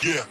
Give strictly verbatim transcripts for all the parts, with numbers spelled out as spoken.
Yeah.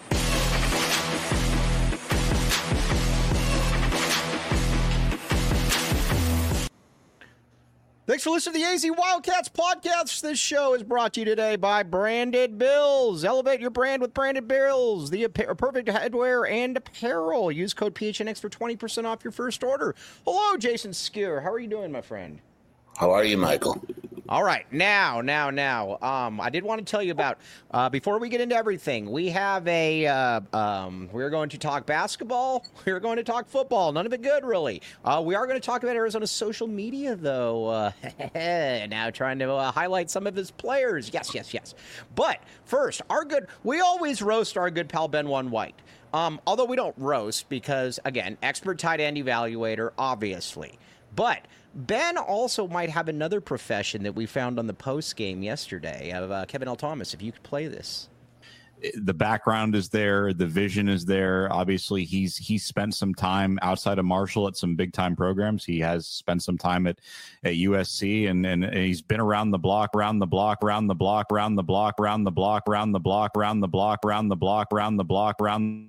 Thanks for listening to the A Z Wildcats podcast. This show is brought to you today by Branded Bills. Elevate your brand with Branded Bills, the perfect headwear and apparel. Use code P H N X for twenty percent off your first order. Hello, Jason Skewer. How are you doing, my friend? How are you, Michael? All right, now, now, now, um, I did want to tell you about, uh, before we get into everything, we have a, uh, um, we're going to talk basketball, we're going to talk football, none of it good, really. Uh, we are going to talk about Arizona's social media, though, uh, now trying to uh, highlight some of his players, yes, yes, yes. But first, our good, we always roast our good pal Ben One White, um, although we don't roast because, again, expert tight end evaluator, obviously, but Ben also might have another profession that we found on the post game yesterday of uh, Kevin L. Thomas. If you could play this, the background is there, the vision is there. Obviously, he's he's spent some time outside of Marshall at some big time programs. He has spent some time at, at U S C, and, and he's been around the block, around the block, around the block, around the block, around the block, around the block, around the block, around the block, around the block, around.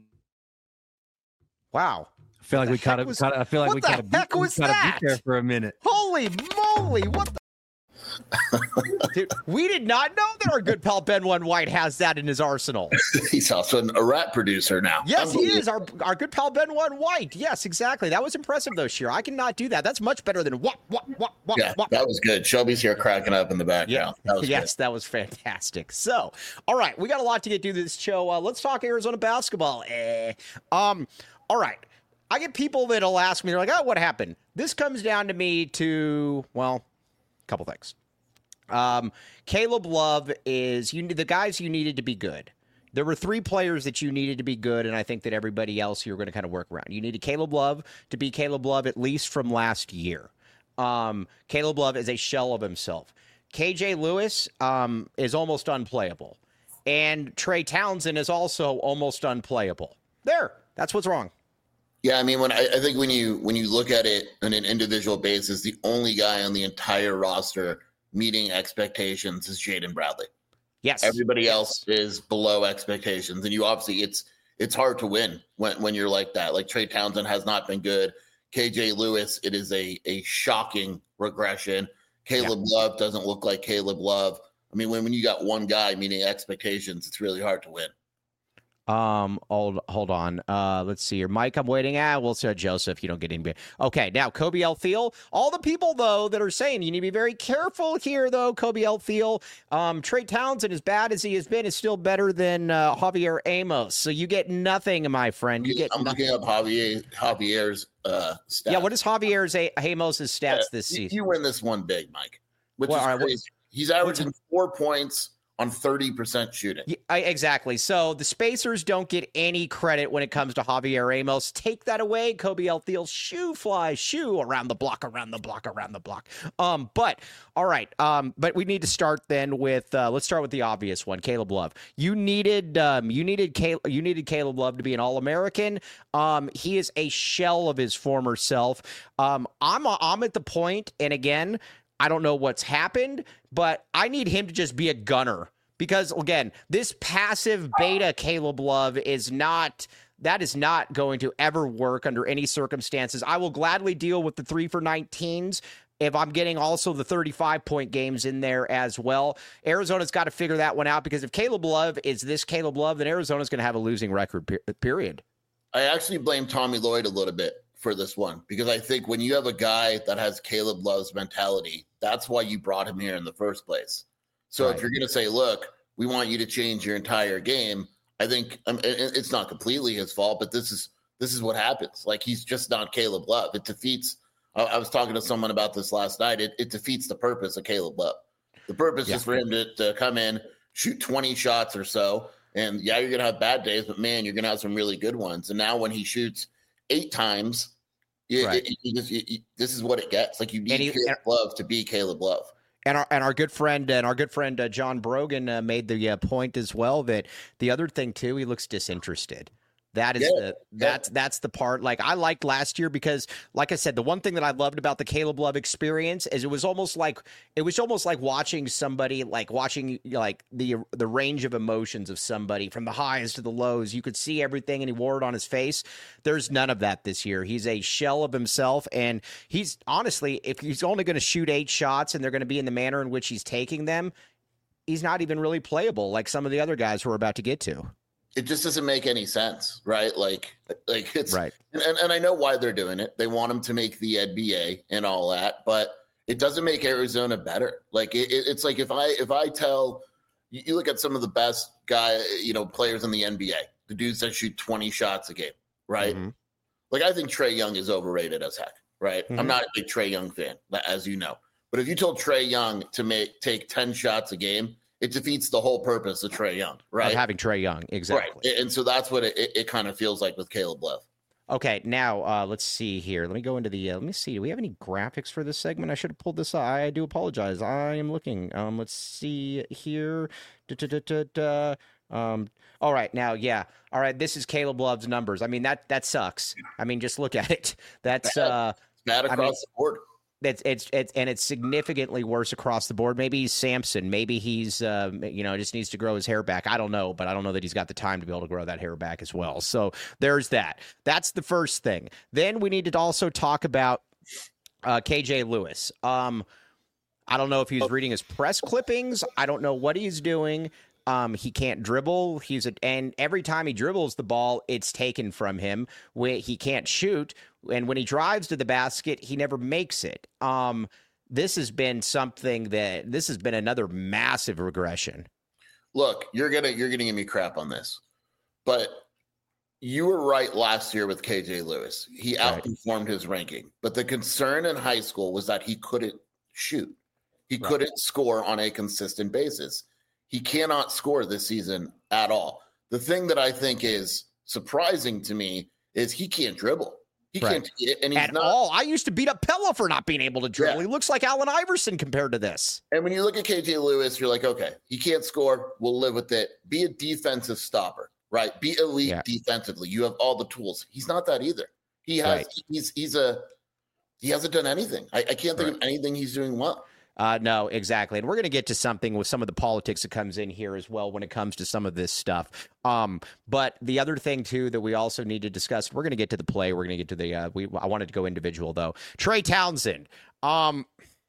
Wow. I feel like we kind of. I feel like what we the kind of. heck was that? There for a minute. Holy moly! What the? Dude, we did not know that our good pal Ben One White has that in his arsenal. He's also an, a rap producer now. Yes, he is. Our our good pal Ben One White. Yes, exactly. That was impressive, though, Sheer. I cannot do that. That's much better than what, what, what, what, Yeah, what. that was good. Shelby's here cracking up in the background. Yeah. That was yes, good. that was fantastic. So, all right, we got a lot to get through this show. Uh, let's talk Arizona basketball. Eh. Um, all right. I get people that'll ask me, they're like, oh, what happened? This comes down to me to, well, a couple things. Um, Caleb Love is you the guys you needed to be good. There were three players that you needed to be good, and I think that everybody else you were going to kind of work around. You needed Caleb Love to be Caleb Love at least from last year. Um, Caleb Love is a shell of himself. K J Lewis um, is almost unplayable. And Trey Townsend is also almost unplayable. There, that's what's wrong. Yeah, I mean, when I, I think when you when you look at it on an individual basis, the only guy on the entire roster meeting expectations is Jaden Bradley. Yes. Everybody else is below expectations, and you obviously it's it's hard to win when when you're like that. Like Trey Townsend has not been good. K J Lewis, it is a a shocking regression. Caleb yeah. Love doesn't look like Caleb Love. I mean, when when you got one guy meeting expectations, it's really hard to win. Um, hold, hold on. Uh, let's see here. Mike, I'm waiting. Ah, we'll see Joseph. You don't get any. Okay, now Kobe L. Thiel. All the people, though, that are saying you need to be very careful here, though, Kobe L. Thiel. Um, Trey Townsend, as bad as he has been, is still better than uh, Javier Amos. So you get nothing, my friend. You get I'm nothing. looking up Javier, Javier's uh, stats. Yeah, what is Javier's A- Amos' stats yeah, this you, season? You win this one big, Mike, which well, is right, crazy. What, He's averaging four points on thirty percent shooting. Yeah, I, exactly. So the Spacers don't get any credit when it comes to Javier Amos. Take that away, Kobe L. Thiel. Shoe fly, shoe around the block, around the block, around the block. Um, but all right. Um, but we need to start then with uh, let's start with the obvious one, Caleb Love. You needed um, you needed Caleb, you needed Caleb Love to be an All-American. Um, he is a shell of his former self. Um, I'm I'm at the point, and again, I don't know what's happened, but I need him to just be a gunner because, again, this passive beta Caleb Love is not – that is not going to ever work under any circumstances. I will gladly deal with the three for nineteens if I'm getting also the thirty-five point games in there as well. Arizona's got to figure that one out because if Caleb Love is this Caleb Love, then Arizona's going to have a losing record, period. I actually blame Tommy Lloyd a little bit for this one because I think when you have a guy that has Caleb Love's mentality, that's why you brought him here in the first place. So right. if you're going to say, look, we want you to change your entire game, I think um, it's not completely his fault, but this is this is what happens. Like, he's just not Caleb Love. It defeats I, I was talking to someone about this last night. It, it defeats the purpose of Caleb Love. The purpose yeah. is for him to, to come in, shoot twenty shots or so, and yeah, you're going to have bad days, but man, you're going to have some really good ones. And now when he shoots eight times, You, right. it, it, it, it, this is what it gets. Like, you need he, Caleb Love to be Caleb Love. And our and our good friend and our good friend uh, John Brogan uh, made the uh, point as well that the other thing too, he looks disinterested. That is Yeah, the that's yeah. that's the part. Like I liked last year because, like I said, the one thing that I loved about the Caleb Love experience is it was almost like it was almost like watching somebody, like watching like the the range of emotions of somebody from the highs to the lows. You could see everything, and he wore it on his face. There's none of that this year. He's a shell of himself, and he's honestly, if he's only going to shoot eight shots and they're going to be in the manner in which he's taking them, he's not even really playable like some of the other guys who we're about to get to. It just doesn't make any sense, right? Like, like it's right. And, and I know why they're doing it. They want him to make the N B A and all that, but it doesn't make Arizona better. Like it, it's like if I if I tell you, you look at some of the best guy, you know, players in the N B A, the dudes that shoot twenty shots a game, right? Mm-hmm. Like I think Trae Young is overrated as heck, right? Mm-hmm. I'm not a big Trae Young fan, as you know, but if you told Trae Young to make take ten shots a game, it defeats the whole purpose of Trae Young, right? Of having Trae Young, exactly. Right. And so that's what it, it, it kind of feels like with Caleb Love. Okay, now uh, let's see here. Let me go into the. Uh, let me see. Do we have any graphics for this segment? I should have pulled this up. I do apologize. I am looking. Um, let's see here. Da, da, da, da, da. Um. All right, now, yeah. All right, this is Caleb Love's numbers. I mean that that sucks. I mean, just look at it. That's bad. uh, it's bad across I mean, the board. It's, it's it's and it's significantly worse across the board. Maybe he's Samson. Maybe he's uh, you know just needs to grow his hair back. I don't know, but I don't know that he's got the time to be able to grow that hair back as well. So there's that. That's the first thing. Then we need to also talk about uh, K J Lewis. Um, I don't know if he was reading his press clippings. I don't know what he's doing. Um, he can't dribble. He's a, and every time he dribbles the ball, it's taken from him. When he can't shoot, and when he drives to the basket, he never makes it. Um, this has been something that this has been another massive regression. Look, you're gonna you're gonna give me crap on this, but you were right last year with K J Lewis. He outperformed right. his ranking, but the concern in high school was that he couldn't shoot. He right. couldn't score on a consistent basis. He cannot score this season at all. The thing that I think is surprising to me is he can't dribble. He right. can't get it, and he's at not. all. I used to beat up Pella for not being able to dribble. Yeah. He looks like Allen Iverson compared to this. And when you look at K J Lewis, you're like, okay, he can't score. We'll live with it. Be a defensive stopper, right? Be elite yeah. defensively. You have all the tools. He's not that either. He has. Right. He's he's a. He hasn't done anything. I, I can't think right. of anything he's doing well. Uh, no, exactly. And we're going to get to something with some of the politics that comes in here as well when it comes to some of this stuff. Um, but the other thing, too, that we also need to discuss, we're going to get to the play. We're going to get to the uh, – we. I wanted to go individual, though. Trae Townsend. Um,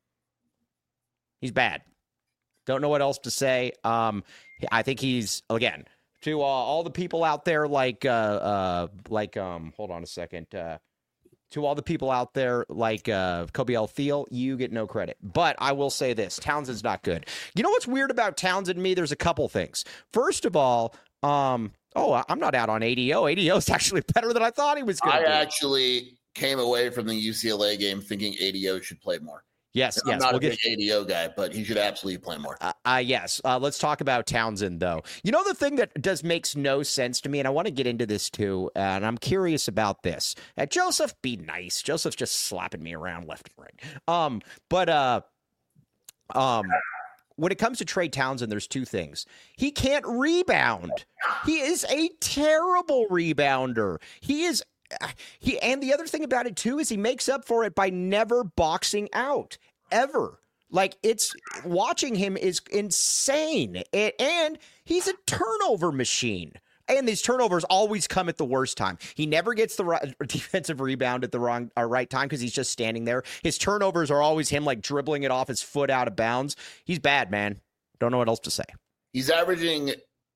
he's bad. Don't know what else to say. Um, I think he's, again, to uh, all the people out there like, uh, uh, like um, hold on a second, uh, to all the people out there like uh, Kobe Althiel, you get no credit. But I will say this, Townsend's not good. You know what's weird about Townsend and me? There's a couple things. First of all, um, oh, I'm not out on A D O. A D O is actually better than I thought he was going to I be. actually came away from the U C L A game thinking A D O should play more. Yes, I'm yes. not we'll a get... big A D O guy, but he should absolutely play more. Uh, uh, yes. Uh, let's talk about Townsend, though. You know, the thing that does makes no sense to me, and I want to get into this, too, uh, and I'm curious about this. Uh, Joseph, be nice. Joseph's just slapping me around left and right. Um, but uh, um, when it comes to Trae Townsend, there's two things. He can't rebound. He is a terrible rebounder. He is He and the other thing about it, too, is he makes up for it by never boxing out, ever. Like, it's watching him is insane. It, and he's a turnover machine. And these turnovers always come at the worst time. He never gets the right, defensive rebound at the wrong or right time because he's just standing there. His turnovers are always him, like, dribbling it off his foot out of bounds. He's bad, man. Don't know what else to say. He's averaging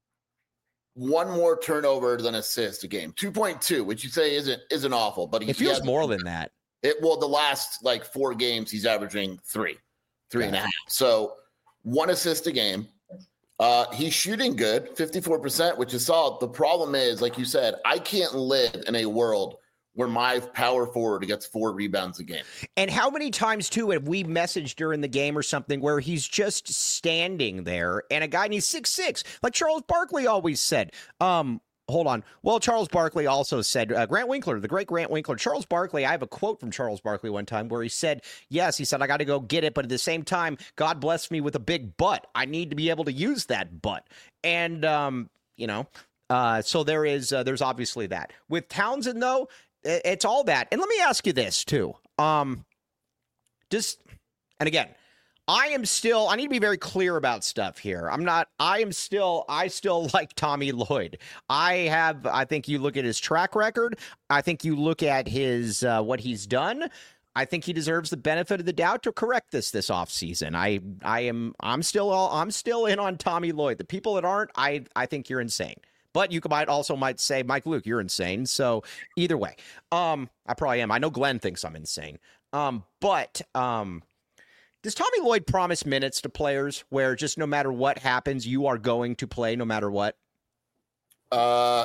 one more turnover than assist a game, two point two, which you say isn't isn't awful, but he, it feels he more than that. It well, the last like four games, he's averaging three, three yeah. and a half. So one assist a game. Uh, he's shooting good, fifty-four percent, which is solid. The problem is, like you said, I can't live in a world where my power forward gets four rebounds a game. And how many times, too, have we messaged during the game or something where he's just standing there and a guy, and he's six six, like Charles Barkley always said. Um, hold on. Well, Charles Barkley also said, uh, Grant Winkler, the great Grant Winkler, Charles Barkley, I have a quote from Charles Barkley one time where he said, yes, he said, I got to go get it, but at the same time, God blessed me with a big butt. I need to be able to use that butt. And, um, you know, Uh, so there is, uh, there's obviously that. With Townsend, though, it's all that. And let me ask you this, too. Um, just, and again, I am still, I need to be very clear about stuff here. I'm not, I am still, I still like Tommy Lloyd. I have, I think you look at his track record. I think you look at his, uh, what he's done. I think he deserves the benefit of the doubt to correct this this offseason. I, I am, I'm still, all, I'm still in on Tommy Lloyd. The people that aren't, I, I think you're insane. But you might also might say, Mike Luke, you're insane. So either way, um, I probably am. I know Glenn thinks I'm insane. Um, but, um, does Tommy Lloyd promise minutes to players where just no matter what happens, you are going to play no matter what? Uh,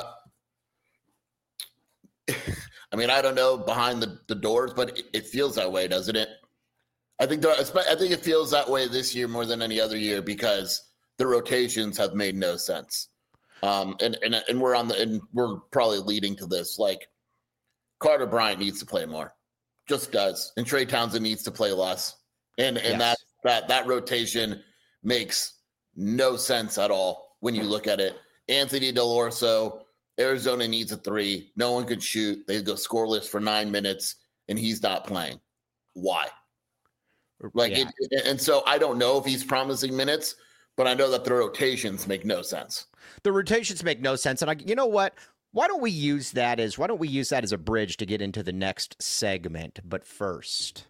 I mean, I don't know behind the, the doors, but it, it feels that way, doesn't it? I think there, I think it feels that way this year more than any other year because the rotations have made no sense. Um, and, and and we're on the and we're probably leading to this. Like Carter Bryant needs to play more, just does, and Trey Townsend needs to play less. And and yes. that that that rotation makes no sense at all when you look at it. Anthony Delorso, Arizona needs a three. No one could shoot. They go scoreless for nine minutes, and he's not playing. Why? Like, yeah. it, it, and so I don't know if he's promising minutes, but I know that the rotations make no sense. The rotations make no sense, and I, you know what? Why don't we use that as why don't we use that as a bridge to get into the next segment? But first,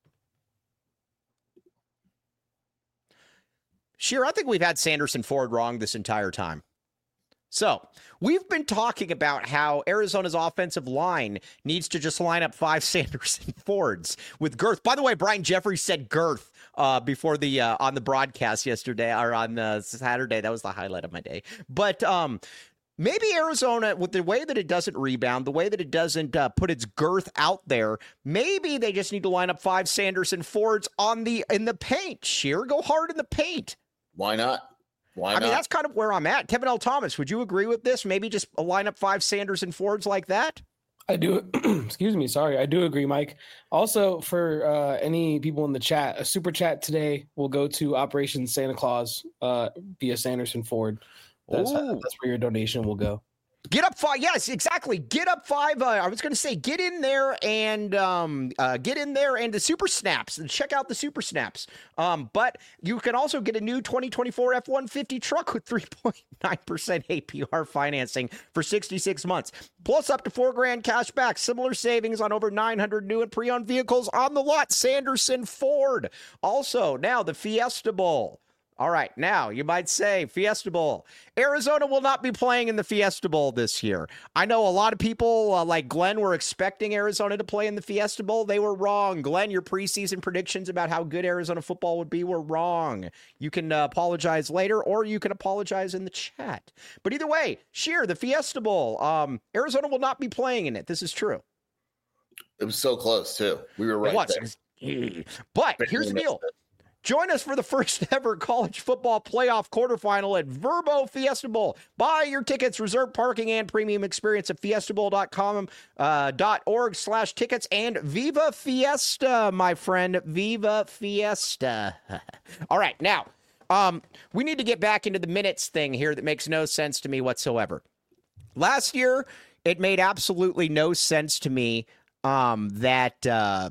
Sheer, I think we've had Sanderson Ford wrong this entire time. So we've been talking about how Arizona's offensive line needs to just line up five Sanderson Fords with girth. By the way, Brian Jeffries said girth uh, before the uh, on the broadcast yesterday or on uh, Saturday. That was the highlight of my day. But um, maybe Arizona, with the way that it doesn't rebound, the way that it doesn't uh, put its girth out there, maybe they just need to line up five Sanderson Fords on the in the paint. Sheer, go hard in the paint. Why not? Why I not? mean, that's kind of where I'm at. Kevin L. Thomas, would you agree with this? Maybe just line up five Sanderson Fords like that? I do. Excuse me. Sorry. I do agree, Mike. Also, for uh, any people in the chat, a super chat today will go to Operation Santa Claus uh, via Sanderson Ford. That's, that's where your donation will go. Get up five. Yes, exactly. Get up five. Uh, I was going to say, get in there and um, uh, get in there and the super snaps and check out the super snaps. Um, but you can also get a new twenty twenty-four F one fifty truck with three point nine percent A P R financing for sixty-six months, plus up to four grand cash back. Similar savings on over nine hundred new and pre-owned vehicles on the lot. Sanderson Ford. Also, now the Fiesta Bowl. All right, now you might say Fiesta Bowl. Arizona will not be playing in the Fiesta Bowl this year. I know a lot of people uh, like Glenn were expecting Arizona to play in the Fiesta Bowl. They were wrong. Glenn, your preseason predictions about how good Arizona football would be were wrong. You can uh, apologize later, or you can apologize in the chat. But either way, Sheer, the Fiesta Bowl, um, Arizona will not be playing in it. This is true. It was so close, too. We were right it was. there. But here's the deal. Join us for the first ever college football playoff quarterfinal at Verbo Fiesta Bowl. Buy your tickets, reserve parking, and premium experience at fiesta bowl dot com, uh, dot org slash tickets, and Viva Fiesta, my friend. Viva Fiesta. All right, now, um, we need to get back into the minutes thing here that makes no sense to me whatsoever. Last year, it made absolutely no sense to me um, that... Uh,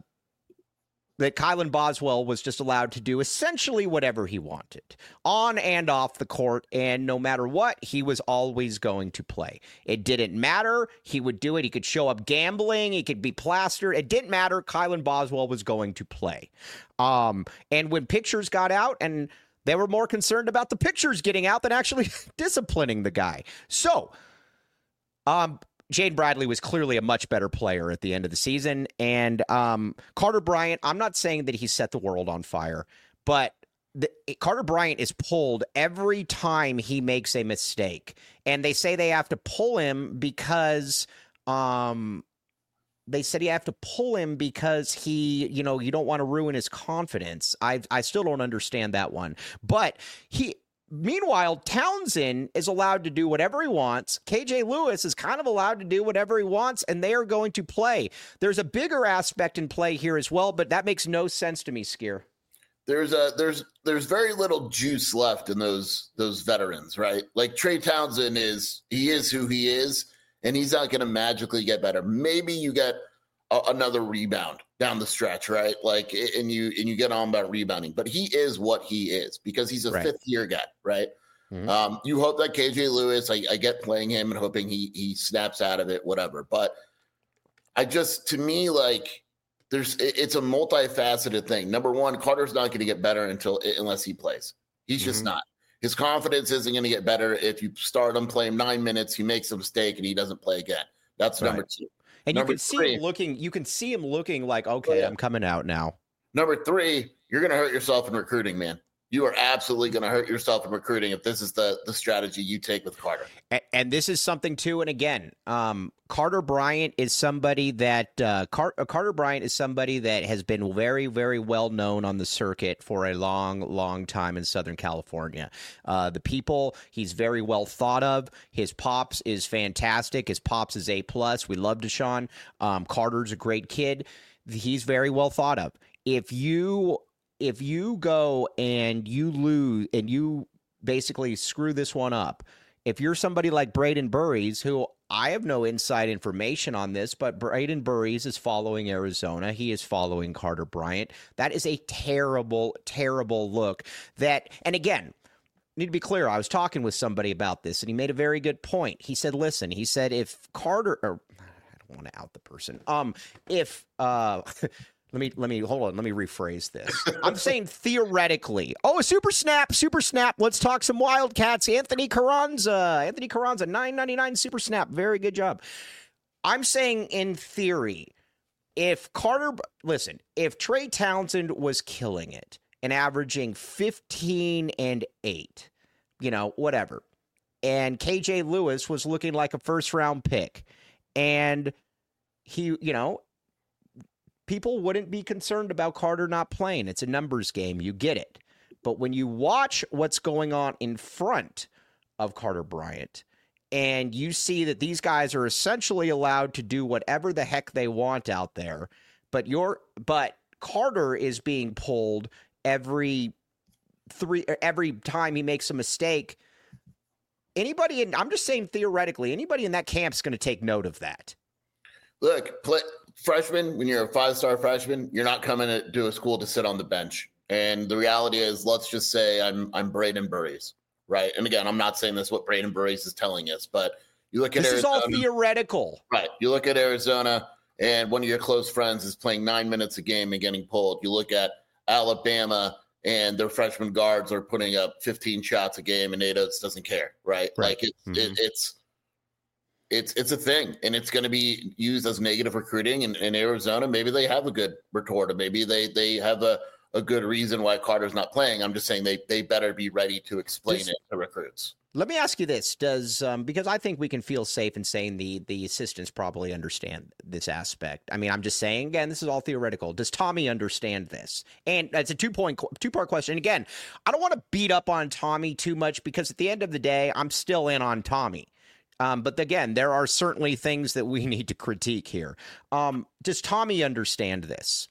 that Kylan Boswell was just allowed to do essentially whatever he wanted on and off the court, and no matter what, he was always going to play. It didn't matter. He would do it. He could show up gambling. He could be plastered. It didn't matter. Kylan Boswell was going to play. Um, and when pictures got out, and they were more concerned about the pictures getting out than actually disciplining the guy. So, um, Jane Bradley was clearly a much better player at the end of the season. And um, Carter Bryant, I'm not saying that he set the world on fire, but the, Carter Bryant is pulled every time he makes a mistake. And they say they have to pull him because um, they said you have to pull him because he, you know, you don't want to ruin his confidence. I I still don't understand that one. But he... Meanwhile, Townsend is allowed to do whatever he wants. K J Lewis is kind of allowed to do whatever he wants, and they are going to play. There's a bigger aspect in play here as well, but that makes no sense to me, Skier. there's a there's there's very little juice left in those those veterans, right? Like Trey Townsend is he is who he is, and he's not going to magically get better. Maybe you get a, another rebound down the stretch, right? Like, and you and you get on about rebounding, but he is what he is because he's a right. fifth year guy, right? Mm-hmm. Um, you hope that K J Lewis, I, I get playing him and hoping he he snaps out of it, whatever. But I just, to me, like. There's it's a multifaceted thing. Number one, Carter's not going to get better until unless he plays. He's just mm-hmm. not. His confidence isn't going to get better if you start him, play him nine minutes, he makes a mistake, and he doesn't play again. That's right. number two. And number you can see three, him looking. You can see him looking like, okay, yeah. I'm coming out now. Number three, you're going to hurt yourself in recruiting, man. You are absolutely going to hurt yourself in recruiting if this is the the strategy you take with Carter. And, and this is something too. And again, um, Carter Bryant is somebody that uh, Car- Carter Bryant is somebody that has been very, very well known on the circuit for a long, long time in Southern California. Uh, the people, he's very well thought of. His pops is fantastic. His pops is A plus. We love Deshaun. Um, Carter's a great kid. He's very well thought of. If you If you go and you lose and you basically screw this one up, if you're somebody like Braden Burries, who I have no inside information on this, but Braden Burries is following Arizona. He is following Carter Bryant. That is a terrible, terrible look. That, and again, need to be clear. I was talking with somebody about this, and he made a very good point. He said, listen, he said, if Carter, or I don't want to out the person. Um, if, uh, Let me let me hold on. Let me rephrase this. I'm saying theoretically. Oh, a super snap, super snap. Let's talk some Wildcats. Anthony Carranza, Anthony Carranza, nine ninety-nine super snap. Very good job. I'm saying in theory, if Carter, listen, if Trey Townsend was killing it and averaging fifteen and eight, you know, whatever, and K J Lewis was looking like a first round pick, and he, you know. People wouldn't be concerned about Carter not playing. It's a numbers game. You get it. But when you watch what's going on in front of Carter Bryant and you see that these guys are essentially allowed to do whatever the heck they want out there, but you're but Carter is being pulled every three every time he makes a mistake. Anybody in I'm just saying theoretically, anybody in that camp is going to take note of that. Look, play, freshman, when you're a five-star freshman, you're not coming to, to a school to sit on the bench. And the reality is, let's just say I'm I'm Braden Burries, right? And again, I'm not saying this what Braden Burries is telling us, but you look at this Arizona, is all theoretical. Right. You look at Arizona, and one of your close friends is playing nine minutes a game and getting pulled. You look at Alabama, and their freshman guards are putting up fifteen shots a game, and Nate Oates doesn't care, right? right. Like, it's mm-hmm. it, it's – It's it's a thing, and it's going to be used as negative recruiting. In, in Arizona, maybe they have a good retort, or maybe they they have a, a good reason why Carter's not playing. I'm just saying they they better be ready to explain Just, it to recruits. Let me ask you this: Does um, because I think we can feel safe in saying the the assistants probably understand this aspect. I mean, I'm just saying again, this is all theoretical. Does Tommy understand this? And it's a two point two part question. Again, I don't want to beat up on Tommy too much because at the end of the day, I'm still in on Tommy. Um, but again, there are certainly things that we need to critique here. Um, does Tommy understand this?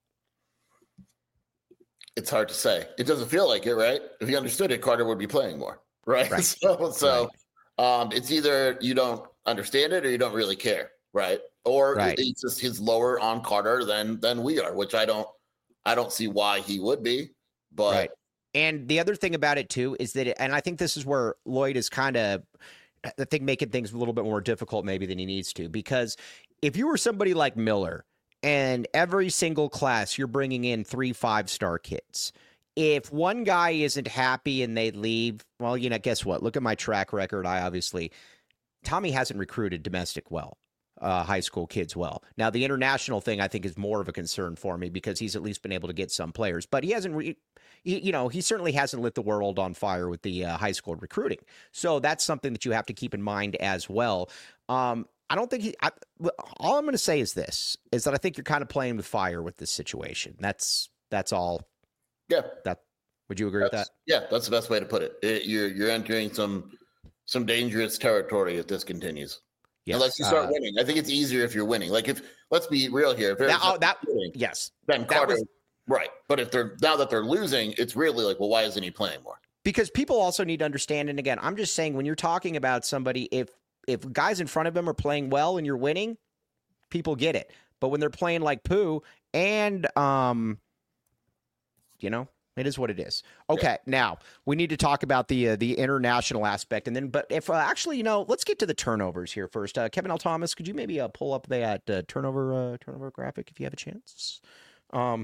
It's hard to say. It doesn't feel like it, right? If he understood it, Carter would be playing more, right? right. So, so right. Um, it's either you don't understand it or you don't really care, right? Or right. it's just he's lower on Carter than than we are, which I don't, I don't see why he would be. But right. And the other thing about it too is that, it, and I think this is where Lloyd is kind of. I think making things a little bit more difficult maybe than he needs to, because if you were somebody like Miller and every single class you're bringing in three five-star kids, if one guy isn't happy and they leave, well, you know, guess what? Look at my track record. I obviously Tommy hasn't recruited domestic well, uh, high school kids well. Now, the international thing I think is more of a concern for me because he's at least been able to get some players, but he hasn't re- you know, he certainly hasn't lit the world on fire with the uh, high school recruiting. So that's something that you have to keep in mind as well. Um, I don't think he, I, all I'm going to say is this, is that I think you're kind of playing with fire with this situation. That's, that's all. Yeah. That, would you agree that's, with that? Yeah, that's the best way to put it. it you're, you're entering some, some dangerous territory if this continues. Yes. Unless you start uh, winning. I think it's easier if you're winning. Like if, let's be real here. If that, oh, that winning, yes. Then Carter, was, Right. But if they're now that they're losing, it's really like, well, why isn't he playing more? Because people also need to understand, and again, I'm just saying when you're talking about somebody, if if guys in front of him are playing well and you're winning, people get it. But when they're playing like poo and, um, you know, it is what it is. Okay, yeah. Now we need to talk about the uh, the international aspect, and then, but if uh, actually, you know, let's get to the turnovers here first. Uh, Kevin L. Thomas, could you maybe uh, pull up that uh, turnover uh, turnover graphic if you have a chance? Um,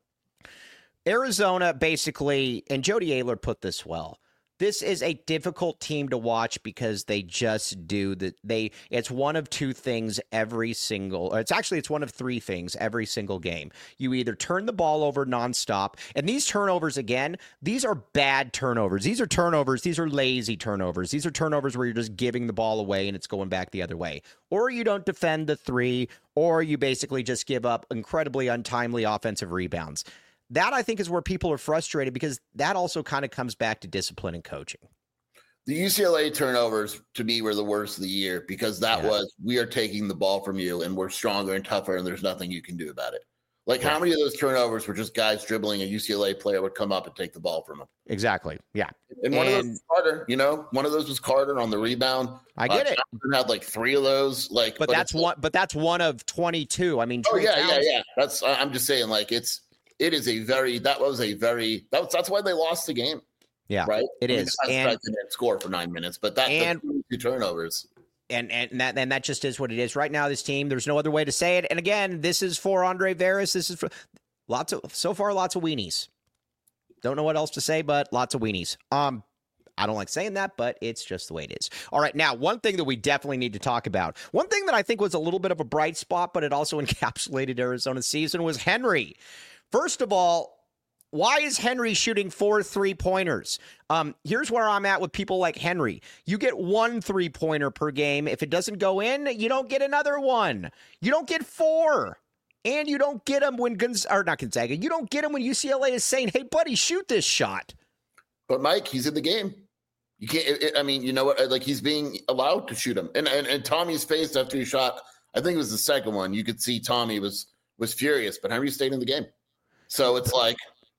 Arizona basically, and Jody Ayler put this well. This is a difficult team to watch because they just do that. They it's one of two things every single. Or it's actually it's one of three things every single game. You either turn the ball over nonstop, and these turnovers again, these are bad turnovers. These are turnovers. These are lazy turnovers. These are turnovers where you're just giving the ball away and it's going back the other way. Or you don't defend the three, or you basically just give up incredibly untimely offensive rebounds. That, I think, is where people are frustrated because that also kind of comes back to discipline and coaching. The U C L A turnovers, to me, were the worst of the year because that yeah. was, we are taking the ball from you and we're stronger and tougher and there's nothing you can do about it. Like, yeah. how many of those turnovers were just guys dribbling, a U C L A player would come up and take the ball from them? Exactly, yeah. And, and one of those was Carter, you know? One of those was Carter on the rebound. I get uh, it. Johnson had like three of those. Like, But, but that's one But that's one of twenty-two. I mean, oh, yeah, yeah, yeah. That's, I'm just saying, like, it's, It is a very that was a very that was, that's why they lost the game. Yeah, right. It I is, mean, and they didn't score for nine minutes, but that and two turnovers, and and that and that just is what it is right now. This team, there's no other way to say it. And again, this is for Andre Veras. This is for lots of so far lots of weenies. Don't know what else to say, but lots of weenies. Um, I don't like saying that, but it's just the way it is. All right, now one thing that we definitely need to talk about, one thing that I think was a little bit of a bright spot, but it also encapsulated Arizona's season was Henry. First of all, why is Henry shooting four three-pointers? Um, here's where I'm at with people like Henry. You get one three-pointer per game. If it doesn't go in, you don't get another one. You don't get four. And you don't get them when Gonz- or not Gonzaga. You don't get them when U C L A is saying, hey, buddy, shoot this shot. But, Mike, he's in the game. You can't it, it, I mean, you know what? Like, he's being allowed to shoot him. And, and, and Tommy's face after he shot, I think it was the second one. You could see Tommy was was furious, but Henry stayed in the game. So it's like,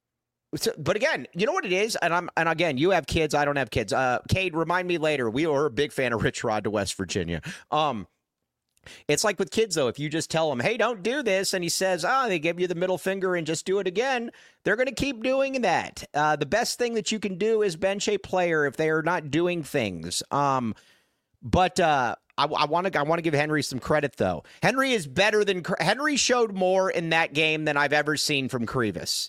so, but again, you know what it is, and I'm and again, you have kids, I don't have kids. Uh, Cade, remind me later. We were a big fan of Rich Rod to West Virginia. Um, it's like with kids though. If you just tell them, "Hey, don't do this," and he says, "Ah," oh, they give you the middle finger and just do it again. They're going to keep doing that. Uh, the best thing that you can do is bench a player if they are not doing things. Um, but. Uh, I want to I want to give Henry some credit, though. Henry is better than – Henry showed more in that game than I've ever seen from Krivas.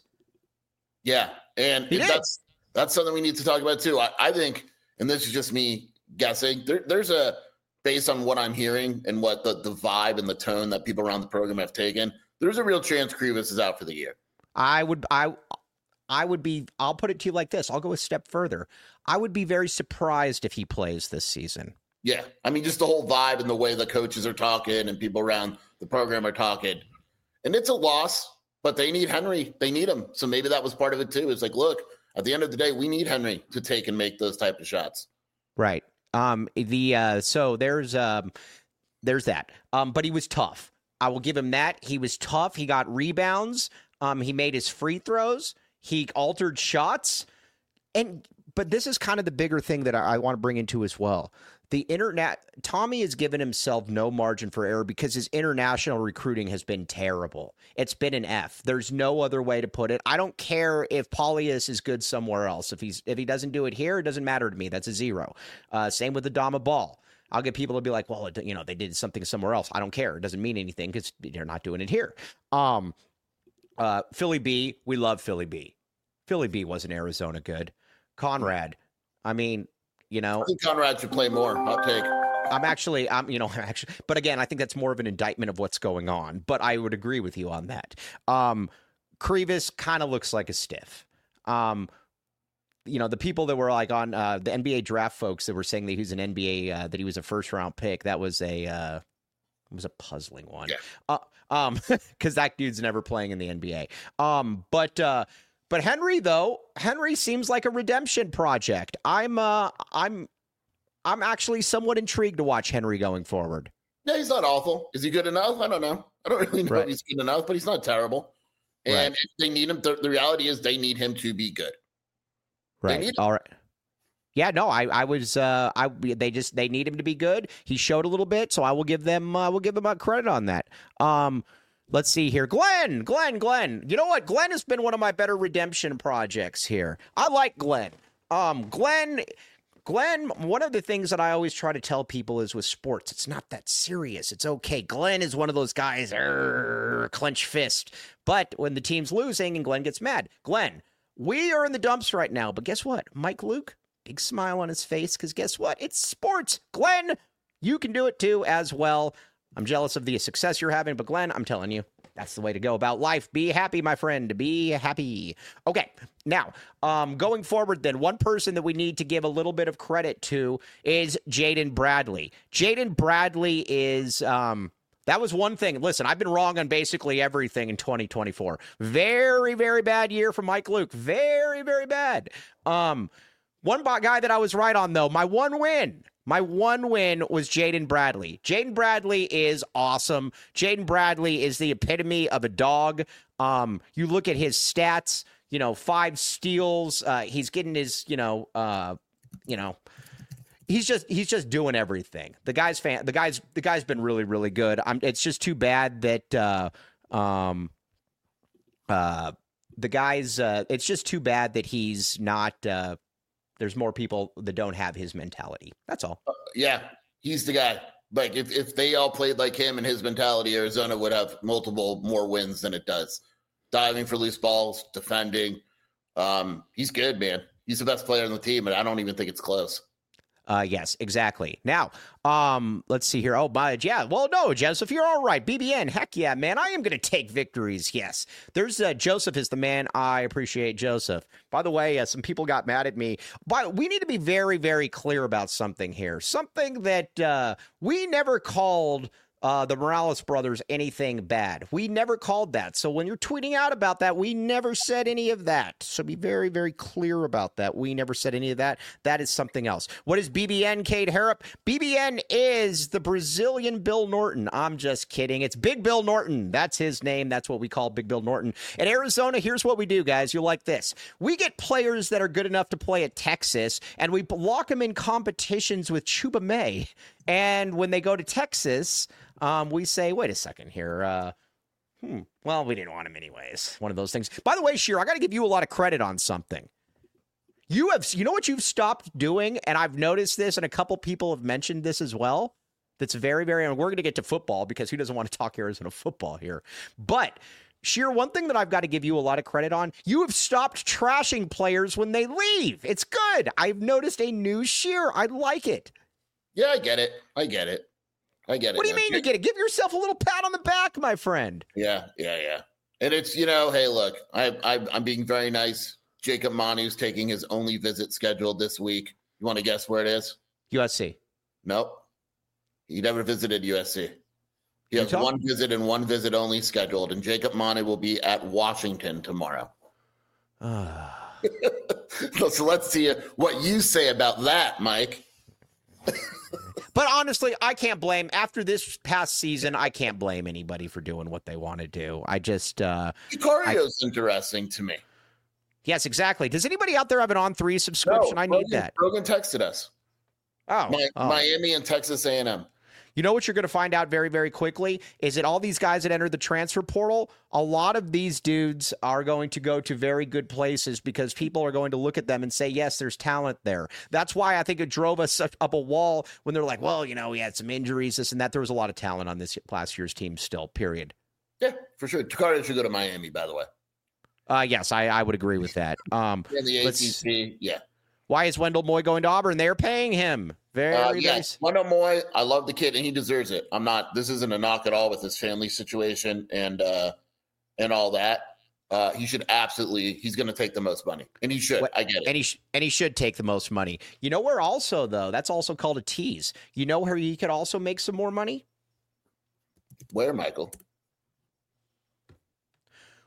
Yeah, and that's that's something we need to talk about, too. I, I think, and this is just me guessing, there, there's a – based on what I'm hearing and what the, the vibe and the tone that people around the program have taken, there's a real chance Krivas is out for the year. I would I, I would be – I'll put it to you like this. I'll go a step further. I would be very surprised if he plays this season. Yeah, I mean, just the whole vibe and the way the coaches are talking and people around the program are talking. And it's a loss, but they need Henry. They need him. So maybe that was part of it, too. It's like, look, at the end of the day, we need Henry to take and make those type of shots. Right. Um. The uh. So there's um. There's that. Um. But he was tough. I will give him that. He was tough. He got rebounds. Um. He made his free throws. He altered shots. And but this is kind of the bigger thing that I, I want to bring into as well. The internet, Tommy has given himself no margin for error because his international recruiting has been terrible. It's been an F. There's no other way to put it. I don't care if Paulius is good somewhere else. If he's if he doesn't do it here, it doesn't matter to me. That's a zero. Uh, same with Adama Ball. I'll get people to be like, well, it, you know, they did something somewhere else. I don't care. It doesn't mean anything because they're not doing it here. Um, uh, Philly B, we love Philly B. Philly B wasn't Arizona good. Conrad, I mean. You know, I think Conrad should play more. Hot take. I'm actually, I'm, you know, actually, but again, I think that's more of an indictment of what's going on. But I would agree with you on that. Um, Krivas kind of looks like a stiff. Um, you know, the people that were like on uh, the N B A draft folks that were saying that he was an N B A, uh, that he was a first round pick. That was a, uh, it was a puzzling one. Yeah. Uh, um, because that dude's never playing in the N B A. Um, but. Uh, But Henry, though, Henry seems like a redemption project. I'm, uh, I'm, I'm actually somewhat intrigued to watch Henry going forward. Yeah, he's not awful. Is he good enough? I don't know. I don't really know right. if he's good enough, but he's not terrible. And Right. if they need him, the, the reality is they need him to be good. Right. need- All right. Yeah, no, I, I was, uh, I, they just, they need him to be good. He showed a little bit, so I will give them, uh, we'll give them a credit on that. Um, let's see here. Glenn, Glenn, Glenn. You know what? Glenn has been one of my better redemption projects here. I like Glenn. Um, Glenn, Glenn, one of the things that I always try to tell people is with sports, it's not that serious. It's okay. Glenn is one of those guys, er, clench fist. But when the team's losing and Glenn gets mad, Glenn, we are in the dumps right now. But guess what? Mike Luke, big smile on his face, because guess what? It's sports. Glenn, you can do it too as well. I'm jealous of the success you're having, but Glenn, I'm telling you, that's the way to go about life. Be happy, my friend. Be happy. Okay, now, um, going forward then, one person that we need to give a little bit of credit to is Jaden Bradley. Jaden Bradley is... Um, That was one thing. Listen, I've been wrong on basically everything in twenty twenty-four. Very, very bad year for Mike Luke. Very, very bad. Um, one guy that I was right on, though, my one win. My one win was Jaden Bradley. Jaden Bradley is awesome. Jaden Bradley is the epitome of a dog. Um, you look at his stats, you know, five steals. Uh, he's getting his, you know, uh, you know, He's just he's just doing everything. The guy's fan. The guy's the guy's been really really good. I'm, it's just too bad that uh, um, uh, the guy's. Uh, it's just too bad that he's not. Uh, there's more people that don't have his mentality. That's all. Uh, yeah, he's the guy. Like if if they all played like him and his mentality, Arizona would have multiple more wins than it does. Diving for loose balls, defending. Um, he's good, man. He's the best player on the team, and I don't even think it's close. Uh, yes, exactly. Now, um, let's see here. Oh, my, yeah. Well, no, Joseph, you're all right. B B N, heck yeah, man. I am going to take victories. Yes. There's uh, Joseph is the man. I appreciate Joseph. By the way, uh, some people got mad at me. But we need to be very, very clear about something here. Something that uh, we never called uh, the Morales brothers anything bad. We never called that. So when you're tweeting out about that, we never said any of that. So be very, very clear about that. We never said any of that. That is something else. What is B B N, Cade Harrop? B B N is the Brazilian Bill Norton. I'm just kidding. It's Big Bill Norton. That's his name. That's what we call Big Bill Norton. In Arizona, here's what we do, guys. You're like this. We get players that are good enough to play at Texas, and we lock them in competitions with Chuba May. And when they go to Texas, um, we say, wait a second here. Uh, hmm, well, we didn't want him anyways. One of those things. By the way, Sheer, I got to give you a lot of credit on something. You have, you know what you've stopped doing? And I've noticed this, and a couple people have mentioned this as well. That's very, very, and we're going to get to football because who doesn't want to talk Arizona football here? But Sheer, one thing that I've got to give you a lot of credit on, you have stopped trashing players when they leave. It's good. I've noticed a new Sheer. I like it. Yeah, I get it. I get it. I get it. What do you mean you get it? Give yourself a little pat on the back, my friend. Yeah, yeah, yeah. And it's, you know, hey, look, I, I, I'm being very nice. Jacob Manu's taking his only visit scheduled this week. You want to guess where it is? U S C. Nope. He never visited U S C. He has Utah? one visit and one visit only scheduled, and Jacob Manu will be at Washington tomorrow. So let's see what you say about that, Mike. But honestly, I can't blame, after this past season, I can't blame anybody for doing what they want to do. I just... Uh, Sicario's interesting to me. yes, exactly. Does anybody out there have an On three subscription? No, I need Rogan, that. Rogan texted us. Oh, Mi- oh. Miami and Texas A and M. You know what you're going to find out very, very quickly is that all these guys that entered the transfer portal, a lot of these dudes are going to go to very good places because people are going to look at them and say, yes, there's talent there. That's why I think it drove us up a wall when they're like, well, you know, we had some injuries, this and that. There was a lot of talent on this last year's team still, period. Yeah, for sure. Sicario should go to Miami, by the way. Uh, yes, I, I would agree with that. Um, In the let's- A C C, yeah. Why is Wendell Moy going to Auburn? They're paying him. Very Uh, yeah, nice. Wendell Moy, I love the kid, and he deserves it. I'm not. This isn't a knock at all with his family situation and uh, and all that. Uh, he should absolutely. He's going to take the most money, and he should. What- I get it. And he sh- and he should take the most money. You know where also though? That's also called a tease. You know where he could also make some more money? Where, Michael?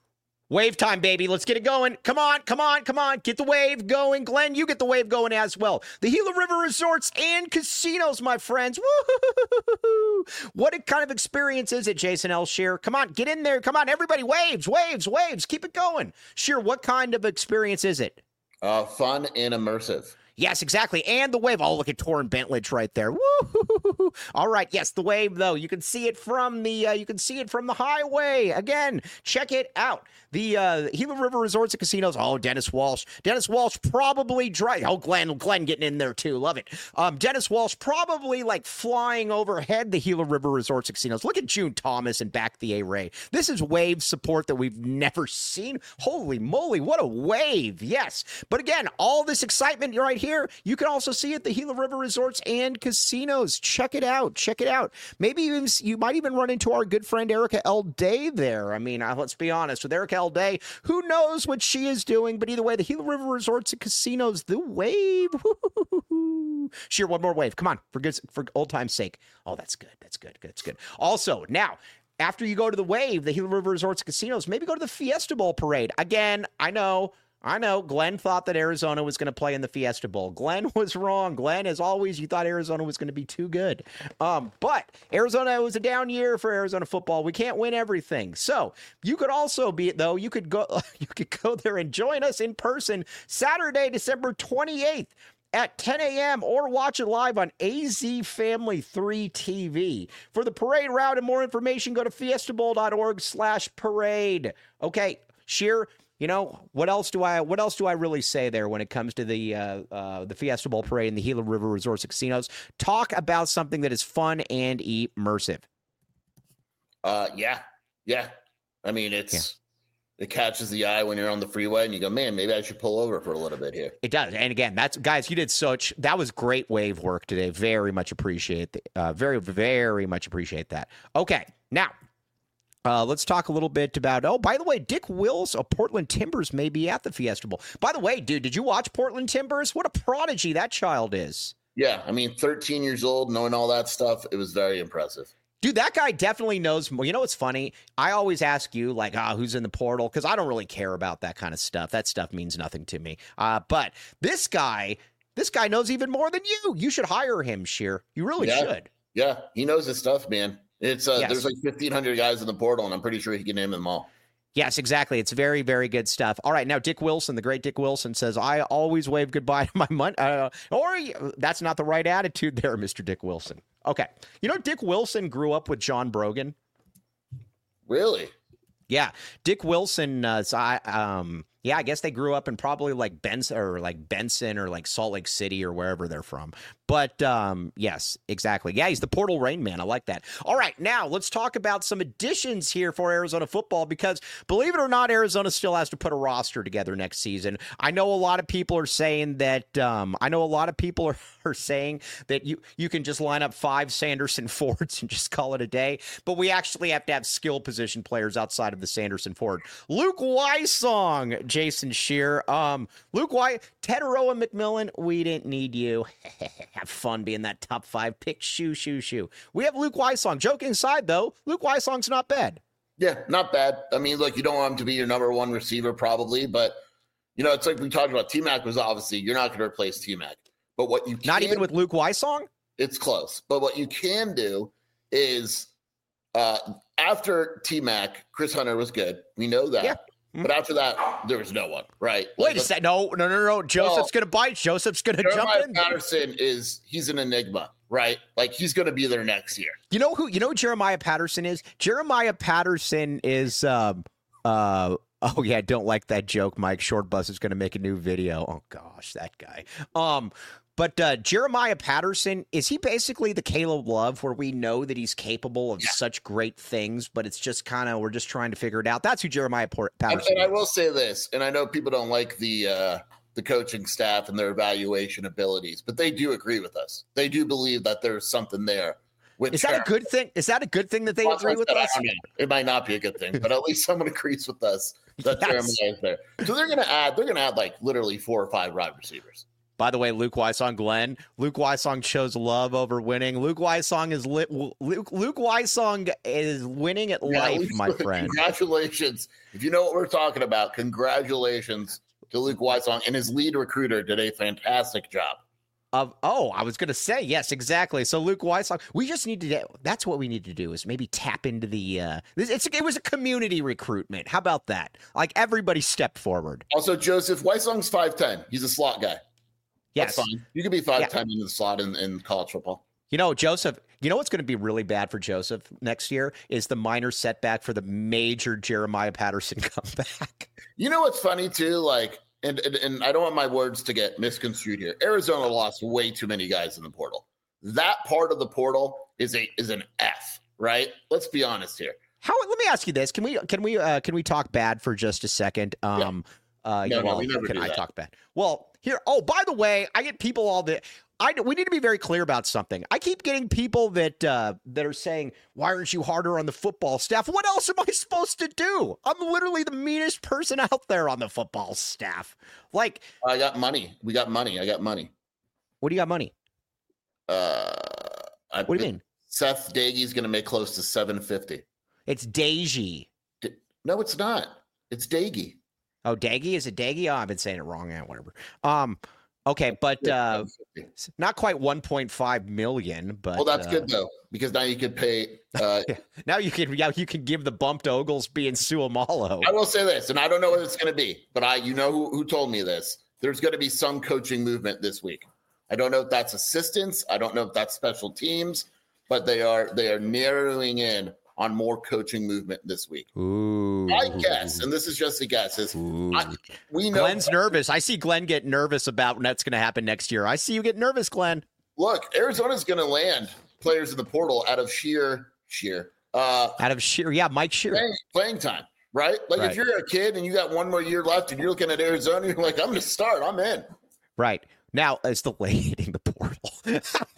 Wave time, baby. Let's get it going. Come on, come on, come on. Get the wave going. Glenn, you get the wave going as well. The Gila River Resorts and Casinos, my friends. Woo-hoo-hoo-hoo-hoo. What kind of experience is it, Jason L. Shear? Come on, get in there. Come on, everybody. Waves, waves, waves. Keep it going. Shear, what kind of experience is it? Uh, fun and immersive. Yes, exactly. And the wave. Oh, look at Torrin Bentledge right there. Woo! All right. Yes, the wave, though. You can see it from the uh, you can see it from the highway. Again, check it out. The uh, Gila River Resorts and Casinos. Oh, Dennis Walsh. Dennis Walsh probably drive. Oh, Glenn. Glenn getting in there, too. Love it. Um, Dennis Walsh probably like flying overhead the Gila River Resorts and Casinos. Look at June Thomas and back the A-Ray. This is wave support that we've never seen. Holy moly. What a wave. Yes. But again, all this excitement right here. Here, you can also see it, the Gila River Resorts and Casinos. Check it out. Check it out. Maybe you, you might even run into our good friend Erica L. Day there. I mean, uh, let's be honest. With Erica L. Day, who knows what she is doing? But either way, the Gila River Resorts and Casinos, the wave. Sheer, one more wave. Come on, for good, for old time's sake. Oh, that's good. That's good. That's good. Also, now, after you go to the wave, the Gila River Resorts and Casinos, maybe go to the Fiesta Bowl parade. Again, I know. I know Glenn thought that Arizona was going to play in the Fiesta Bowl. Glenn was wrong. Glenn, as always, you thought Arizona was going to be too good. Um, but Arizona was a down year for Arizona football. We can't win everything. So you could also be, though, you could go, you could go there and join us in person Saturday, December twenty-eighth. At ten a.m. or watch it live on A Z Family three T V. For the parade route and more information, go to fiestabowl.org slash parade. Okay, Sheer. You know, what else do I what else do I really say there when it comes to the uh, uh, the Fiesta Bowl parade and the Gila River Resorts and Casinos? Talk about something that is fun and immersive. Uh, yeah, yeah. I mean, it's yeah. It catches the eye when you're on the freeway and you go, man, maybe I should pull over for a little bit here. It does. And again, that's guys, you did such that was great wave work today. Very much appreciate the, uh, very very much appreciate that. Okay, now. Uh, let's talk a little bit about, oh, by the way, Dick Wills of Portland Timbers may be at the Fiesta Bowl. By the way, dude, did you watch Portland Timbers? What a prodigy that child is. Yeah, I mean, thirteen years old, knowing all that stuff, it was very impressive. Dude, that guy definitely knows more. You know what's funny? I always ask you, like, ah, oh, who's in the portal? Because I don't really care about that kind of stuff. That stuff means nothing to me. Uh, but this guy, this guy knows even more than you. You should hire him, Sheer. You really yeah. should. Yeah, he knows his stuff, man. It's uh, yes. There's like fifteen hundred guys in the portal, and I'm pretty sure he can name them all. Yes, exactly. It's very, very good stuff. All right, now Dick Wilson, the great Dick Wilson, says, I always wave goodbye to my money. Uh, or that's not the right attitude there, Mister Dick Wilson. Okay. You know, Dick Wilson grew up with John Brogan. Really? Yeah. Dick Wilson, uh, so I, um, yeah, I guess they grew up in probably like Benson or like Benson or like Salt Lake City or wherever they're from. But um, yes, exactly. Yeah, he's the Portal Rain Man. I like that. All right, now let's talk about some additions here for Arizona football because believe it or not, Arizona still has to put a roster together next season. I know a lot of people are saying that. Um, I know a lot of people are, are saying that you you can just line up five Sanderson Fords and just call it a day. But we actually have to have skill position players outside of the Sanderson Ford. Luke Weissong, Jason Shear, um, Luke White, Teteroa McMillan. We didn't need you. Have fun being that top five pick. Shoo, shoo, shoo. We have Luke Weissong. Joking aside, though, Luke Weissong's not bad. Yeah, not bad. I mean, look, you don't want him to be your number one receiver probably, but, you know, it's like we talked about. T-Mac was obviously, you're not going to replace T-Mac. But what you can, Not even with Luke Weissong? It's close. But what you can do is uh, after T-Mac, Chris Hunter was good. We know that. Yeah. But after that, there was no one, right? Wait like, a second. No, no, no, no. Joseph's well, going to bite. Joseph's going to jump in. Patterson is, he's an enigma, right? Like, he's going to be there next year. You know who, you know who Jeremiah Patterson is? Jeremiah Patterson is, um, uh, oh, yeah, don't like that joke, Mike. Short Bus is going to make a new video. Oh, gosh, that guy. Um, But uh, Jeremiah Patterson, is he basically the Caleb Love where we know that he's capable of yeah. such great things, but it's just kind of, we're just trying to figure it out. That's who Jeremiah Patterson and, and I will say this, and I know people don't like the uh, the coaching staff and their evaluation abilities, but they do agree with us. They do believe that there's something there. Is that Jeremiah. a good thing? Is that a good thing that they well, agree with us? I mean, it might not be a good thing, but at least someone agrees with us that yes. Jeremiah is there. So they're going to add, they're going to add like literally four or five wide receivers. By the way, Luke Wysong, Glenn. Luke Wysong chose love over winning. Luke Wysong is lit. Luke Luke Wysong is winning at yeah, life, my friend. Congratulations! If you know what we're talking about, congratulations to Luke Wysong, and his lead recruiter did a fantastic job. Of oh, I was going to say yes, exactly. So Luke Wysong, we just need to. That's what we need to do is maybe tap into the. Uh, it's it was a community recruitment. How about that? Like everybody stepped forward. Also, Joseph Wysong's five ten. He's a slot guy. Yes. That's fine. You could be five ten yeah. in the slot in, in college football. You know, Joseph, you know what's going to be really bad for Joseph next year is the minor setback for the major Jeremiah Patterson comeback. You know what's funny, too? Like, and, and, and I don't want my words to get misconstrued here. Arizona lost way too many guys in the portal. That part of the portal is a is an F, right? Let's be honest here. How? Let me ask you this. Can we can we uh, can we talk bad for just a second? Um, yeah. uh, no, well, no, we never can do I that. talk bad? Well, here. Oh, by the way, I get people all the. I we need to be very clear about something. I keep getting people that uh, that are saying, "Why aren't you harder on the football staff?" What else am I supposed to do? I'm literally the meanest person out there on the football staff. Like, I got money. We got money. I got money. What do you got money? Uh, I, what do you mean? Seth Dagy's going to make close to seven fifty. It's Dagey. D- no, it's not. It's Dagy. Oh, Daggy? Is it Daggy? Oh, I've been saying it wrong. Yeah, whatever. Um. Okay, but uh, not quite one point five million. But well, that's uh, good though, because now you could pay. Uh, now you can, yeah, you can give the bump to Oglesby and Suamalo. I will say this, and I don't know what it's going to be, but I, you know, who, who told me this? There's going to be some coaching movement this week. I don't know if that's assistants. I don't know if that's special teams, but they are they are narrowing in on more coaching movement this week. Ooh. I guess, and this is just a guess, is I, we know Glenn's nervous. I see Glenn get nervous about what's going to happen next year. I see you get nervous, Glenn. Look, Arizona's going to land players in the portal out of sheer, sheer. Uh, out of sheer, yeah, Mike Shear. Playing, playing time, right? Like right. if you're a kid and you got one more year left and you're looking at Arizona, you're like, I'm going to start. I'm in. Right. Now, it's the late hitting the portal.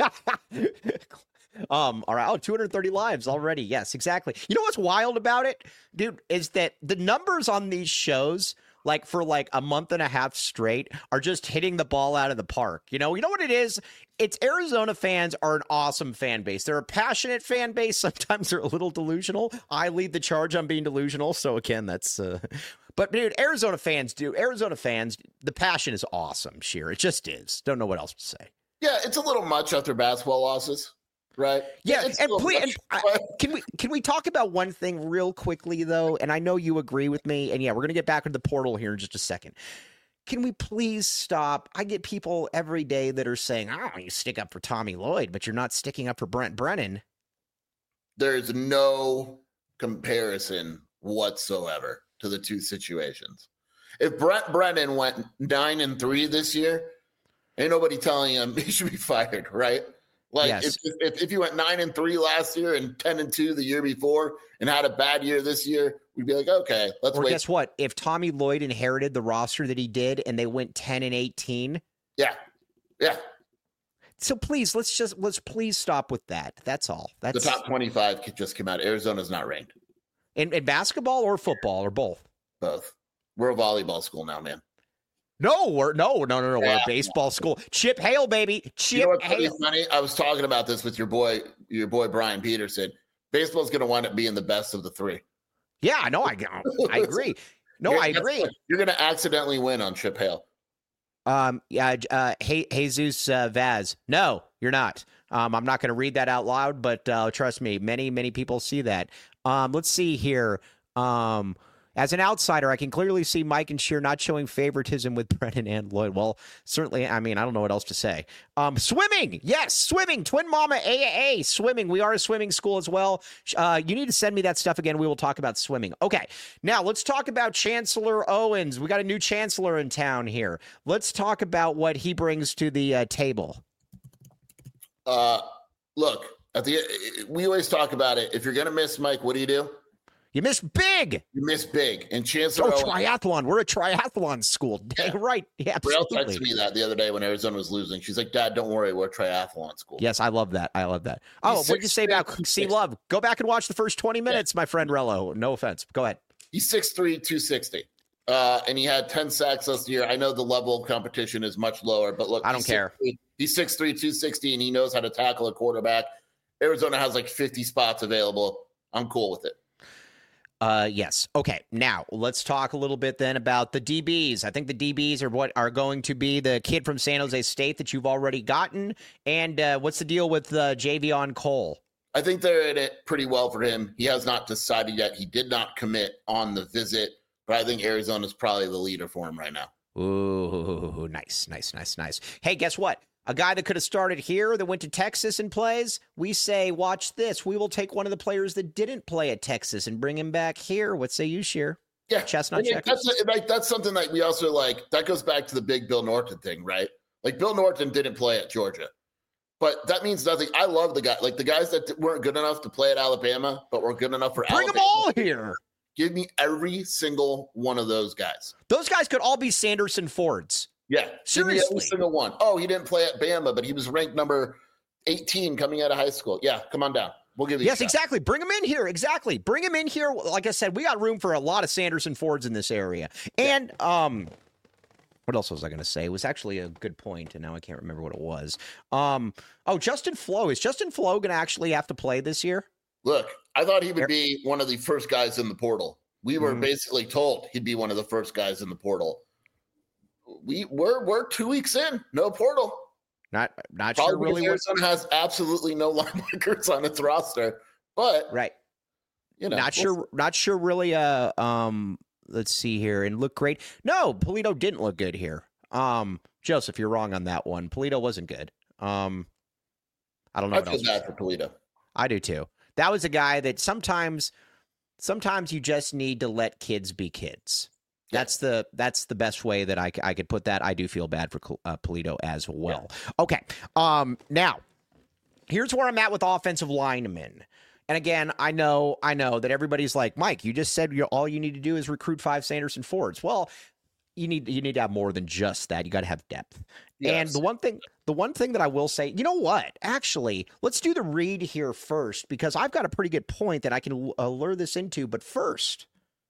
Um, all right. Oh, two hundred thirty lives already. Yes, exactly. You know what's wild about it, dude, is that the numbers on these shows, like for like a month and a half straight, are just hitting the ball out of the park. You know, you know what it is? It's Arizona fans are an awesome fan base. They're a passionate fan base. Sometimes they're a little delusional. I lead the charge on being delusional. So again, that's, uh, but dude, Arizona fans do Arizona fans. The passion is awesome. Sheer. It just is. Don't know what else to say. Yeah. It's a little much after basketball losses. Right. Yeah, and please, and I, can we can we talk about one thing real quickly though? And I know you agree with me. And yeah, we're gonna get back into the portal here in just a second. Can we please stop? I get people every day that are saying, "Oh, you stick up for Tommy Lloyd, but you're not sticking up for Brent Brennan." There's no comparison whatsoever to the two situations. If Brent Brennan went nine and three this year, ain't nobody telling him he should be fired, right? Like yes. if, if if you went nine and three last year and ten and two the year before and had a bad year this year, we'd be like, okay, let's or wait. Guess what? If Tommy Lloyd inherited the roster that he did and they went ten and eighteen, yeah, yeah. So please, let's just let's please stop with that. That's all. That's the top twenty-five just came out. Arizona's not ranked in, in basketball or football or both. Both. We're a volleyball school now, man. No, we're no, no, no, no. Yeah. We're a baseball school. Chip Hale, baby. Chip you know what's Hale. Funny? I was talking about this with your boy, your boy Brian Peterson. Baseball's going to wind up being the best of the three. Yeah, no, I, I agree. No, you're, I agree. You're going to accidentally win on Chip Hale. Um, yeah, uh, hey, Jesus uh, Vaz. No, you're not. Um, I'm not going to read that out loud, but uh, trust me, many, many people see that. Um, let's see here. Um. As an outsider, I can clearly see Mike and Shear not showing favoritism with Brennan and Lloyd. Well, certainly, I mean, I don't know what else to say. Um, swimming, yes, swimming, Twin Mama A A A, swimming. We are a swimming school as well. Uh, you need to send me that stuff again. We will talk about swimming. Okay, now let's talk about Chancellor Owens. We got a new chancellor in town here. Let's talk about what he brings to the uh, table. Uh, look, at the we always talk about it. If you're going to miss Mike, what do you do? You missed big. You missed big. And Chancellor Oh, triathlon. We're a triathlon school. Dang yeah. right. Yeah, Braille texted me that the other day when Arizona was losing. She's like, Dad, don't worry. We're a triathlon school. Yes, I love that. I love that. Oh, what did you say about C Love? Go back and watch the first twenty minutes, yeah. my friend Rello. No offense. Go ahead. He's six three, two sixty. Uh, and he had ten sacks last year. I know the level of competition is much lower, but look, I don't he's care. six three, he's six three, two sixty, and he knows how to tackle a quarterback. Arizona has like fifty spots available. I'm cool with it. Uh, yes. Okay. Now let's talk a little bit then about the D Bs. I think the D Bs are what are going to be the kid from San Jose State that you've already gotten. And uh, what's the deal with uh, Javion Cole? I think they're in it pretty well for him. He has not decided yet. He did not commit on the visit, but I think Arizona's probably the leader for him right now. Ooh, nice, nice, nice, nice. Hey, guess what? A guy that could have started here that went to Texas and plays, we say, watch this. We will take one of the players that didn't play at Texas and bring him back here. What say you, Sheer? Yeah, Chestnut I mean, checkers. that's like that's something that we also like. That goes back to the big Bill Norton thing, right? Like Bill Norton didn't play at Georgia, but that means nothing. I love the guy, like the guys that weren't good enough to play at Alabama, but were good enough for Bring Alabama. them all here. Give me every single one of those guys. Those guys could all be Sanderson Fords. Yeah, Seriously. every single one. Oh, he didn't play at Bama, but he was ranked number eighteen coming out of high school. Yeah, come on down. We'll give you. Yes, a shot. exactly. Bring him in here. Exactly. Bring him in here. Like I said, we got room for a lot of Sanderson Fords in this area. And um, what else was I going to say? It was actually a good point, and now I can't remember what it was. Um, oh, Justin Flo. Is Justin Flo going to actually have to play this year? Look, I thought he would be one of the first guys in the portal. We were Mhm. basically told he'd be one of the first guys in the portal. We we're we're two weeks in, no portal. Not not Probably sure really what. Arizona has absolutely no linebackers on its roster, but Right. you know, Not we'll sure. Not sure really. Uh, um, let's see here and look great. No, Polito didn't look good here. Um, Joseph, you're wrong on that one. Polito wasn't good. Um, I don't know I what feel else. to bad say. for Toledo. I do too. That was a guy that sometimes, sometimes you just need to let kids be kids. Yeah. That's the that's the best way that I, c- I could put that. I do feel bad for uh, Polito as well. Okay. Um. Now, here's where I'm at with offensive linemen. And again, I know I know that everybody's like, Mike, you just said you're, all you need to do is recruit five Sanderson Fords. Well, you need you need to have more than just that. You got to have depth. And Yes. the one thing the one thing that I will say, you know what? Actually, let's do the read here first because I've got a pretty good point that I can uh, lure this into. But first,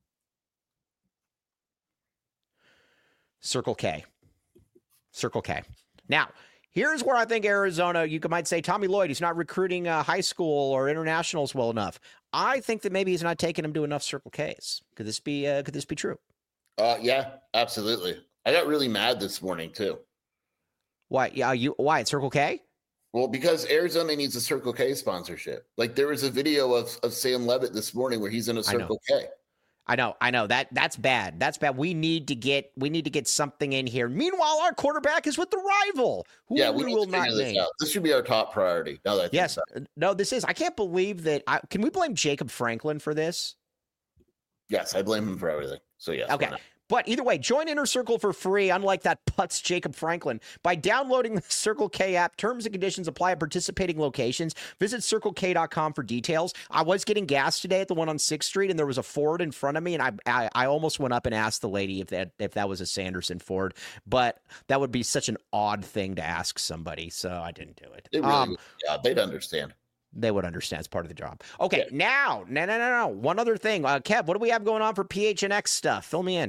Circle K. Circle K. Now, here's where I think Arizona, you could, might say, Tommy Lloyd, he's not recruiting uh, high school or internationals well enough. I think that maybe he's not taking them to enough Circle Ks. Could this be uh, could this be true? Uh, yeah, absolutely. I got really mad this morning too. Why? Yeah, you why at Circle K? Well, because Arizona needs a Circle K sponsorship. Like there was a video of, of Sam Levitt this morning where he's in a I know. Circle K. I know, I know that that's bad. That's bad. We need to get we need to get something in here. Meanwhile, our quarterback is with the rival, who Yeah, we, we need will to not figure this name. out. This should be our top priority. Now that I think Yes, so. no, this is. I can't believe that. I, can we blame Jacob Franklin for this? Yes, I blame him for everything. So yes. Okay. why not? But either way, join Inner Circle for free, unlike that putz Jacob Franklin, by downloading the Circle K app. Terms and conditions apply at participating locations. Visit circle k dot com for details. I was getting gas today at the one on sixth Street, and there was a Ford in front of me, and I I, I almost went up and asked the lady if that if that was a Sanderson Ford, but that would be such an odd thing to ask somebody, so I didn't do it. It really Um, would. Yeah, they'd understand. They would understand. It's part of the job. Okay, now, no, no, no, no. One other thing. Uh, Kev, what do we have going on for P H N X stuff? Fill me in.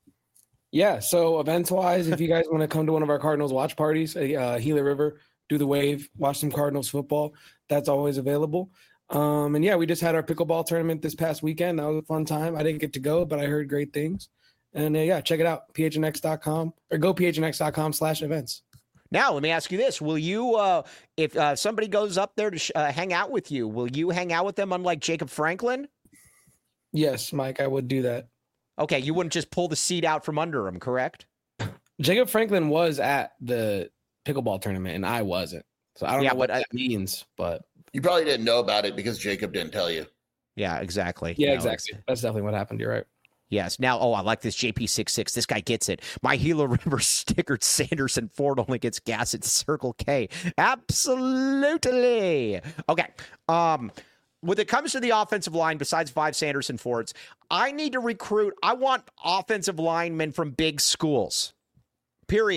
Yeah, so events wise, if you guys want to come to one of our Cardinals watch parties, uh, Gila River, do the wave, watch some Cardinals football, that's always available. Um, and yeah, we just had our pickleball tournament this past weekend. That was a fun time. I didn't get to go, but I heard great things. And uh, yeah, check it out, p h n x dot com or go p h n x dot com slash events. Now, let me ask you this. Will you, uh, if uh, somebody goes up there to sh- uh, hang out with you, will you hang out with them unlike Jacob Franklin? Yes, Mike, I would do that. Okay, you wouldn't just pull the seat out from under him, correct? Jacob Franklin was at the pickleball tournament, and I wasn't. So I don't Yeah, know what but I- that means, but You probably didn't know about it because Jacob didn't tell you. Yeah, exactly. yeah, No, exactly. it's- That's definitely what happened. You're right. Yes. Now, oh, I like this J P sixty-six. This guy gets it. My Gila River stickered Sanderson Ford only gets gas at Circle K. Absolutely. Okay. Um, when it comes to the offensive line, besides five Sanderson Fords, I need to recruit. I want offensive linemen from big schools. Period.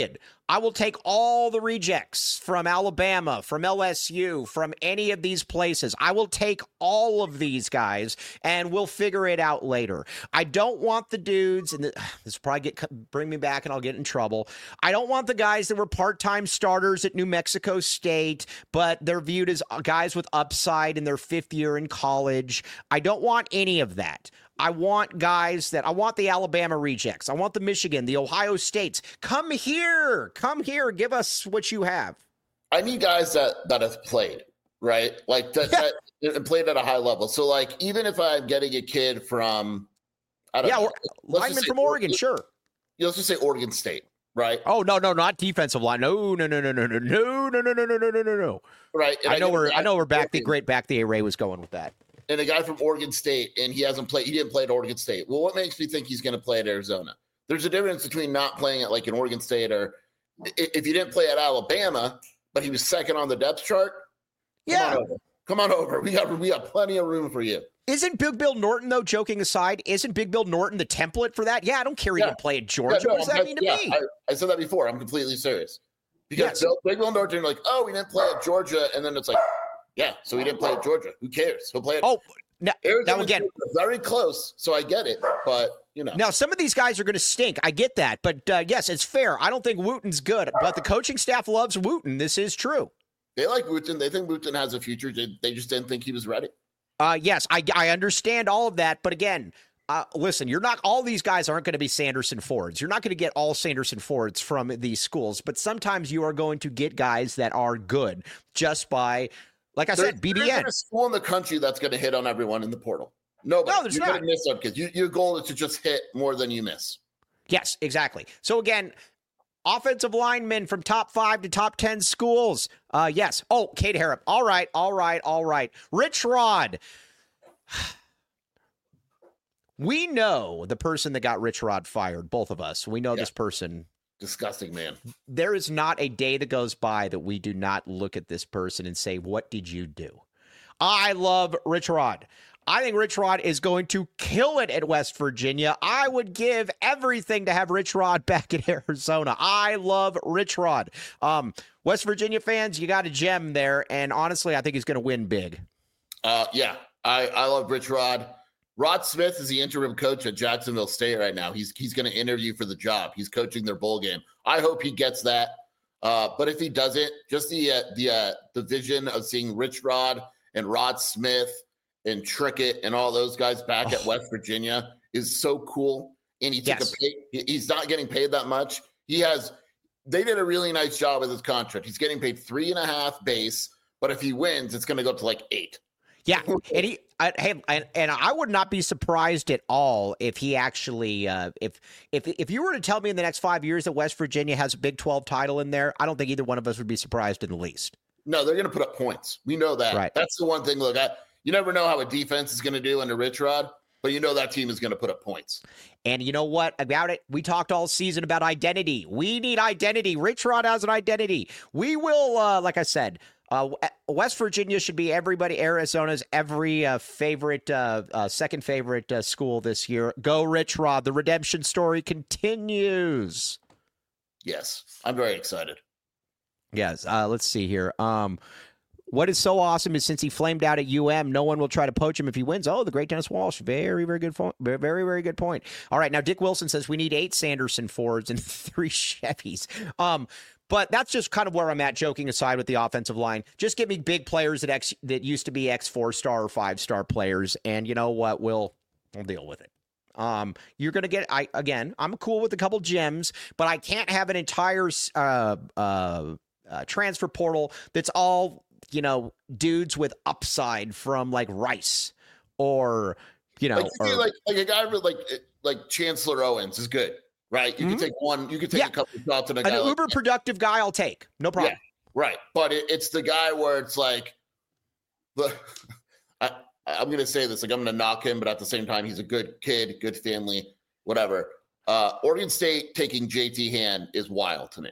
I will take all the rejects from Alabama, from L S U, from any of these places. I will take all of these guys, and we'll figure it out later. I don't want the dudes, and the, this will probably get bring me back, and I'll get in trouble. I don't want the guys that were part-time starters at New Mexico State, but they're viewed as guys with upside in their fifth year in college. I don't want any of that. I want guys that I want the Alabama rejects. I want the Michigan, the Ohio States. Come here. Come here. Give us what you have. I need guys that, that have played, right? Like that, yeah. that played at a high level. So like, even if I'm getting a kid from, I don't yeah, know. Lineman from Oregon, Oregon, sure. Let's just say Oregon State, right? Oh, no, no, not defensive line. No, no, no, no, no, no, no, no, no, no, no, no, no, no. Right. I know where I know where back the great back the array was going with that. And a guy from Oregon State, and he hasn't played, he didn't play at Oregon State. Well, what makes me think he's going to play at Arizona? There's a difference between not playing at like an Oregon State, or if you didn't play at Alabama, but he was second on the depth chart. Yeah. Come on over. Come on over. We got, we got plenty of room for you. Isn't Big Bill Norton, though, joking aside, isn't Big Bill Norton the template for that? Yeah, I don't care he yeah. didn't play at Georgia. Yeah, no, what does that I, mean to yeah, me? I, I said that before. I'm completely serious. Because yes. Bill, Big Bill Norton, like, oh, we didn't play at Georgia. And then it's like, yeah, so he didn't play at Georgia. Who cares? He'll play at Oh, now, now again, very close, so I get it, but you know. Now some of these guys are going to stink. I get that, but uh, yes, it's fair. I don't think Wooten's good, but the coaching staff loves Wooten. This is true. They like Wooten. They think Wooten has a future. They, they just didn't think he was ready. Uh, yes, I I understand all of that, but again, uh, listen, you're not. All these guys aren't going to be Sanderson Fords. You're not going to get all Sanderson Fords from these schools, but sometimes you are going to get guys that are good just by. Like I there's, said, B B N. There's a school in the country that's going to hit on everyone in the portal. Nobody. No, there's You're not. going to miss some kids. You, your goal is to just hit more than you miss. Yes, exactly. So again, offensive linemen from top five to top ten schools. Uh, yes. Oh, Kate Harrop. All right, all right, all right. Rich Rod. We know the person that got Rich Rod fired, both of us. We know yeah. this person. Disgusting, man. There is not a day that goes by that we do not look at this person and say, what did you do? I love Rich Rod. I think Rich Rod is going to kill it at West Virginia. I would give everything to have Rich Rod back in Arizona. I love Rich Rod. Um, West Virginia fans, you got a gem there, and honestly, I think he's going to win big. Uh, yeah, I, I love Rich Rod. Rod Smith is the interim coach at Jacksonville State right now. He's he's going to interview for the job. He's coaching their bowl game. I hope he gets that. Uh, but if he doesn't, just the uh, the uh, the vision of seeing Rich Rod and Rod Smith and Trickett and all those guys back oh. at West Virginia is so cool. And he took yes. a pay. He's not getting paid that much. He has. They did a really nice job with his contract. He's getting paid three and a half base, but if he wins, it's going to go to like eight. Yeah, and he, I, hey, and, and I would not be surprised at all if he actually, uh, if if if you were to tell me in the next five years that West Virginia has a Big twelve title in there, I don't think either one of us would be surprised in the least. No, they're going to put up points. We know that. Right. That's the one thing. Look, I, you never know how a defense is going to do under Rich Rod, but you know that team is going to put up points. And you know what about it? We talked all season about identity. We need identity. Rich Rod has an identity. We will, uh, like I said. Uh, West Virginia should be everybody, Arizona's every uh, favorite, uh, uh, second favorite uh, school this year. Go Rich Rod. The redemption story continues. Yes, I'm very excited. Yes. Uh, let's see here. Um, what is so awesome is since he flamed out at U M, no one will try to poach him if he wins. Oh, the great Dennis Walsh. Very, very good point. Very, very good point. All right. Now, Dick Wilson says we need eight Sanderson Fords and three Chevys. Um, But that's just kind of where I'm at, joking aside with the offensive line. Just give me big players that ex, that used to be ex four-star or five-star players, and you know what? We'll, we'll deal with it. Um, you're going to get, I again, I'm cool with a couple gems, but I can't have an entire uh, uh, uh, transfer portal that's all, you know, dudes with upside from, like, Rice or, you know. Like, or, like, like a guy with, like, like Chancellor Owens is good. Right, you mm-hmm. can take one. You can take yeah. a couple of shots on a guy. An like uber that. productive guy, I'll take. No problem. Yeah, right, but it, it's the guy where it's like, the. I, I'm going to say this, like I'm going to knock him, but at the same time, he's a good kid, good family, whatever. Uh, Oregon State taking J T Hand is wild to me.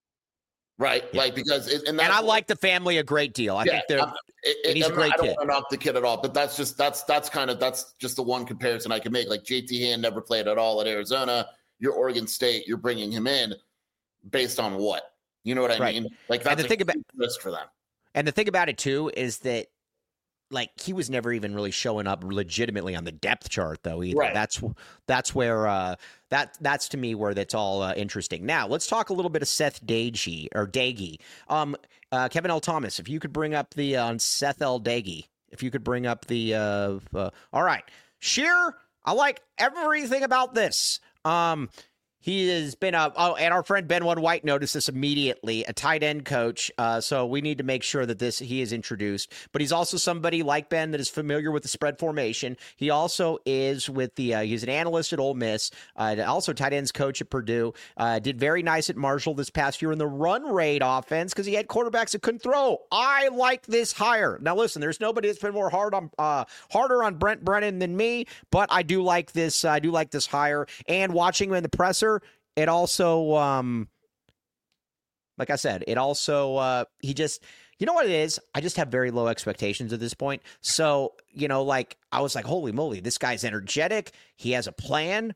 Right, yeah. like because it, and, and I like the family a great deal. I yeah, think they're. I'm, it, and he's I'm a great not, I don't kid. want to knock the kid at all, but that's just that's that's kind of that's just the one comparison I can make. Like J T Hand never played at all at Arizona. You're Oregon State, you're bringing him in. based on what? You know what I Right. mean? Like that's the a thing about- huge risk for them. And the thing about it too is that, like, he was never even really showing up legitimately on the depth chart, though. Either Right. that's that's where uh, that that's to me where that's all uh, interesting. Now let's talk a little bit of Seth Dagey or Dagey. Um, uh, Kevin L. Thomas, if you could bring up the on uh, Seth L. Dagey, if you could bring up the. Uh, uh, all right, Sheer. I like everything about this. Um, He has been a, oh, and our friend Ben One White noticed this immediately, a tight end coach. Uh, so we need to make sure that this he is introduced. But he's also somebody like Ben that is familiar with the spread formation. He also is with the, uh, he's an analyst at Ole Miss, uh, also tight ends coach at Purdue. Uh, did very nice at Marshall this past year in the run rate offense because he had quarterbacks that couldn't throw. I like this hire. Now listen, there's nobody that's been more hard on, uh, harder on Brent Brennan than me, but I do like this. Uh, I do like this hire. And watching him in the presser, it also, um, like I said, it also, uh, he just, you know what it is? I just have very low expectations at this point. So, you know, like, I was like, holy moly, this guy's energetic. He has a plan.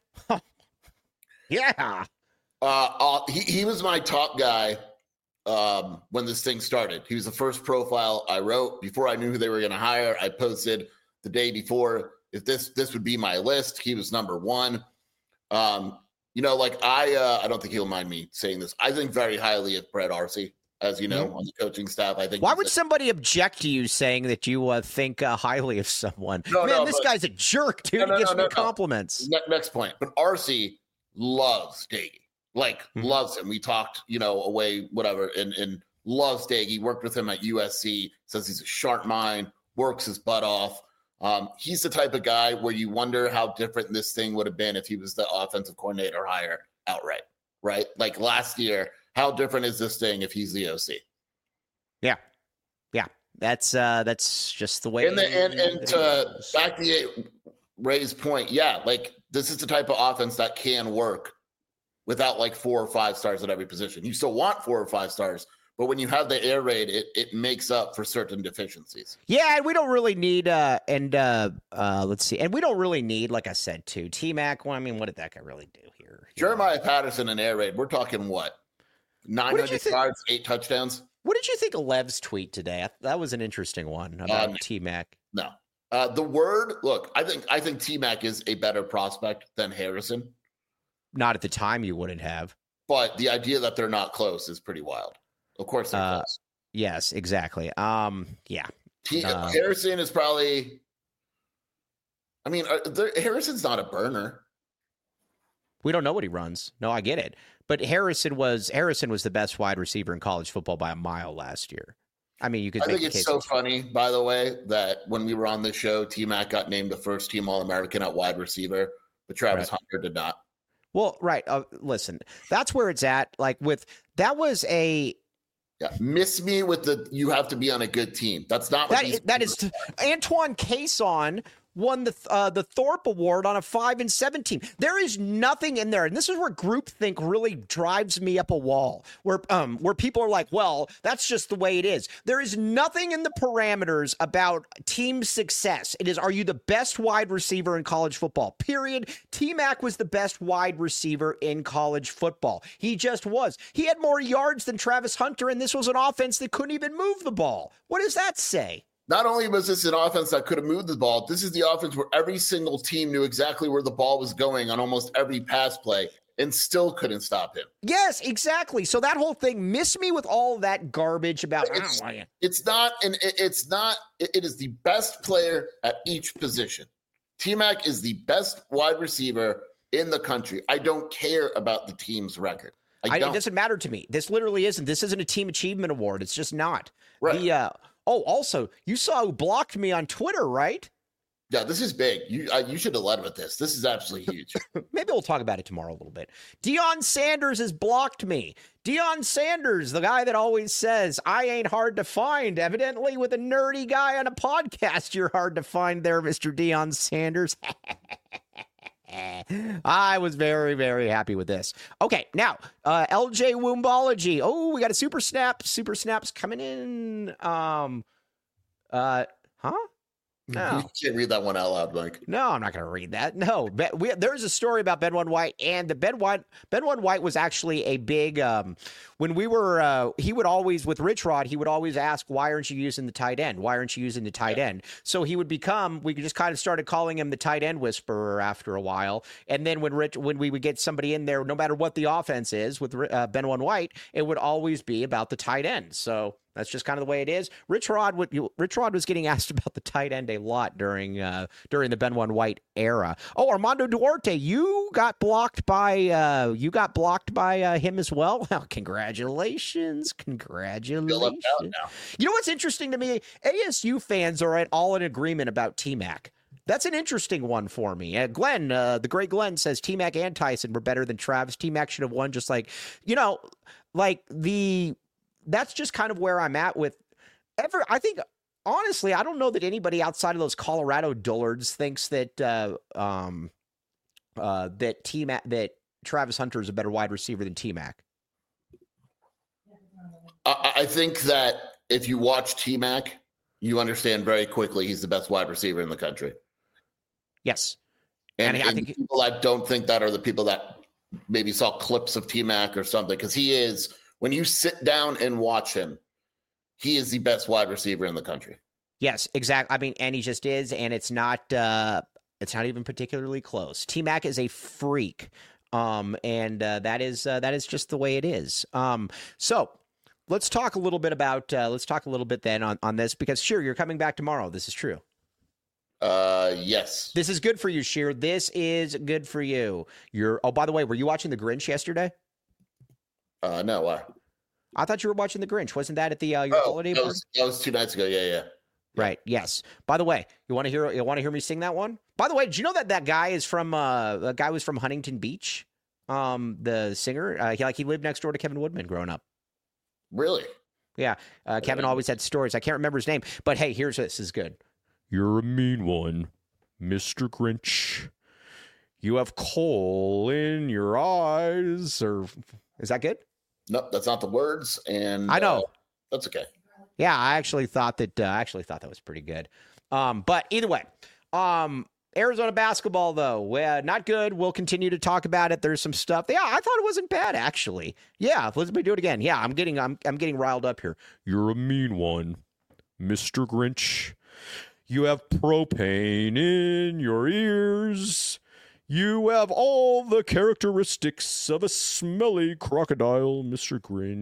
Yeah. Uh, uh, he, he was my top guy um, when this thing started. He was the first profile I wrote. Before I knew who they were going to hire, I posted the day before, if this, this would be my list. He was number one. Um, You know, like I, uh, I don't think he'll mind me saying this. I think very highly of Brett Arcee, as you know, mm-hmm. on the coaching staff. I think. Why would a- somebody object to you saying that you uh, think uh, highly of someone? No, Man, no, this but, guy's a jerk, dude. No, no, he gives no, me no, compliments. No. Ne- next point. But Arcee loves Dagey, like mm-hmm. loves him. We talked, you know, away, whatever, and, and loves Dagey. Worked with him at U S C. Says he's a sharp mind. Works his butt off. Um, he's the type of guy where you wonder how different this thing would have been if he was the offensive coordinator hire outright, right? Like last year, how different is this thing if he's the O C? Yeah, yeah, that's uh, that's just the way. And the, and, and to back the Ray's point, yeah, like this is the type of offense that can work without like four or five stars at every position. You still want four or five stars. But when you have the air raid, it, it makes up for certain deficiencies. Yeah, and we don't really need, uh, and uh, uh, let's see, and we don't really need, like I said, too, T-Mac. Well, I mean, what did that guy really do here? Jeremiah Patterson and air raid, we're talking what? nine hundred yards, eight touchdowns? What did you think of Lev's tweet today? That was an interesting one about um, T-Mac. No. Uh, the word, look, I think I think T-Mac is a better prospect than Harrison. Not at the time you wouldn't have. But the idea that they're not close is pretty wild. Of course they're uh, close. Yes, exactly. Um, yeah. T- uh, Harrison is probably, I mean, are, Harrison's not a burner. We don't know what he runs. No, I get it. But Harrison was Harrison was the best wide receiver in college football by a mile last year. I mean, you could. I make think the it's case so funny, by the way, that when we were on the show, T-Mac got named the first team All-American at wide receiver, but Travis right. Hunter did not. Well, right. Uh, listen, that's where it's at. Like with that was a. Yeah, miss me with the you have to be on a good team. That's not what that, that is. T- Antoine Cason won the uh, the Thorpe Award on a five and seven team. There is nothing in there, and this is where groupthink really drives me up a wall. Where um where people are like, well, that's just the way it is. There is nothing in the parameters about team success. It is, are you the best wide receiver in college football? Period. T-Mac was the best wide receiver in college football. He just was. He had more yards than Travis Hunter, and this was an offense that couldn't even move the ball. What does that say? Not only was this an offense that could have moved the ball, this is the offense where every single team knew exactly where the ball was going on almost every pass play and still couldn't stop him. Yes, exactly. So that whole thing, miss me with all that garbage about it's, oh, it's not and it, it's not it, it is the best player at each position. T-Mac is the best wide receiver in the country. I don't care about the team's record. I I, don't. it doesn't matter to me. This literally isn't. This isn't a team achievement award. It's just not. Right. The, uh, oh, also, you saw who blocked me on Twitter, right? Yeah, this is big. You uh, you should have led with this. This is absolutely huge. Maybe we'll talk about it tomorrow a little bit. Deion Sanders has blocked me. Deion Sanders, the guy that always says, I ain't hard to find. Evidently, with a nerdy guy on a podcast, you're hard to find there, Mister Deion Sanders. I was very, very happy with this. Okay, now, uh, L J Woombology. Oh, we got a super snap. Super snaps coming in. Um, uh, huh? No. You can't read that one out loud, Mike. No, I'm not going to read that. No, but we, there's a story about Ben One White, and the Ben One Ben One White was actually a big. Um, when we were, uh, he would always with Rich Rod, he would always ask, "Why aren't you using the tight end? Why aren't you using the tight Yeah. end?" So he would become. We just kind of started calling him the tight end whisperer after a while, and then when Rich, when we would get somebody in there, no matter what the offense is with uh, Ben One White, it would always be about the tight end. So. That's just kind of the way it is. Rich Rod, would, Rich Rod was getting asked about the tight end a lot during uh, during the Ben One White era. Oh, Armando Duarte, you got blocked by uh, you got blocked by uh, him as well. Well, congratulations, congratulations. You know what's interesting to me? A S U fans are at all in agreement about T-Mac. That's an interesting one for me. Uh, Glenn, uh, the great Glenn says T-Mac and Tyson were better than Travis. T-Mac should have won, just like you know, like the. That's just kind of where I'm at with ever. I think, honestly, I don't know that anybody outside of those Colorado dullards thinks that uh, um, uh, that T-Mac, that Travis Hunter is a better wide receiver than T-Mac. I, I think that if you watch T-Mac, you understand very quickly he's the best wide receiver in the country. Yes. And, and I and think people that don't think that are the people that maybe saw clips of T-Mac or something, because he is – when you sit down and watch him, he is the best wide receiver in the country. Yes, exactly. I mean, and he just is, and it's not uh, it's not even particularly close. T-Mac is a freak, um, and uh, that is uh, that is just the way it is. Um, so let's talk a little bit about uh, let's talk a little bit then on, on this, because sure, you're coming back tomorrow. This is true. Uh, yes. This is good for you, Sheer. This is good for you. You're. Oh, by the way, were you watching The Grinch yesterday? Uh, no, why? I thought you were watching The Grinch. Wasn't that at the uh, your oh, holiday that party? was, that was two nights ago. Yeah, yeah. Right. Yes. By the way, you want to hear you want to hear me sing that one? By the way, did you know that that guy is from uh, a guy was from Huntington Beach? Um, the singer, uh, he like he lived next door to Kevin Woodman growing up. Really? Yeah. Uh, Kevin always had stories. I can't remember his name, but hey, here's this. This is good. You're a mean one, Mister Grinch. You have coal in your eyes, or is that good? Nope, that's not the words. And I know uh, that's okay. Yeah, I actually thought that. Uh, I actually thought that was pretty good. Um, but either way, um, Arizona basketball though, uh, not good. We'll continue to talk about it. There's some stuff. Yeah, I thought it wasn't bad actually. Yeah, let's do it again. Yeah, I'm getting. I'm. I'm getting riled up here. You're a mean one, Mister Grinch. You have propane in your ears. You have all the characteristics of a smelly crocodile, Mister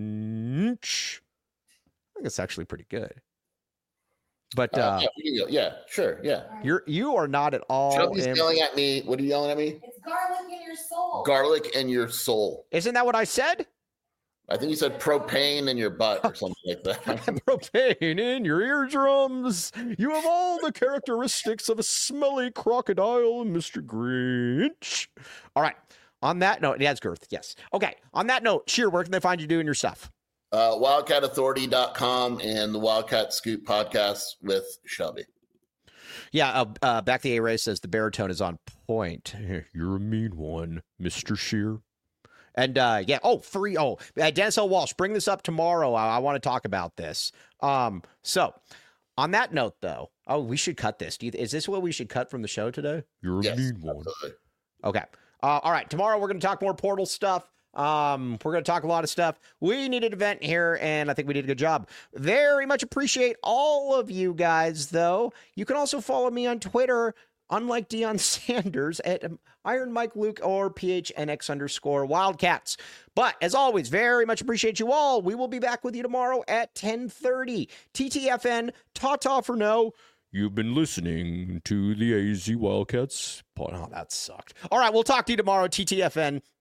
Grinch. I think it's actually pretty good. But uh, uh, yeah, we can go. yeah, sure, yeah. You're you are not at all. Somebody's in... yelling at me. What are you yelling at me? It's garlic in your soul. Garlic in your soul. Isn't that what I said? I think you said propane in your butt or something like that. Propane in your eardrums. You have all the characteristics of a smelly crocodile, Mister Grinch. All right. On that note, it has girth. Yes. Okay. On that note, Sheer, where can they find you doing your stuff? Uh, wildcat authority dot com and the Wildcat Scoop podcast with Shelby. Yeah, uh, uh, Back the A-Ray says the baritone is on point. You're a mean one, Mister Sheer. And uh, yeah, oh, free. Oh, uh, Dennis L. Walsh, bring this up tomorrow. I, I want to talk about this. Um, so on that note, though, oh, we should cut this. Do you, is this what we should cut from the show today? You're a Yes, mean one. absolutely. Okay. Uh, all right. Tomorrow we're going to talk more Portal stuff. Um, we're going to talk a lot of stuff. We needed an event here, and I think we did a good job. Very much appreciate all of you guys, though. You can also follow me on Twitter, unlike Deion Sanders, at Iron Mike Luke or P H N X underscore Wildcats. But as always, very much appreciate you all. We will be back with you tomorrow at ten thirty. T T F N, ta-ta for now. You've been listening to the A Z Wildcats. Oh, that sucked. All right, we'll talk to you tomorrow, T T F N.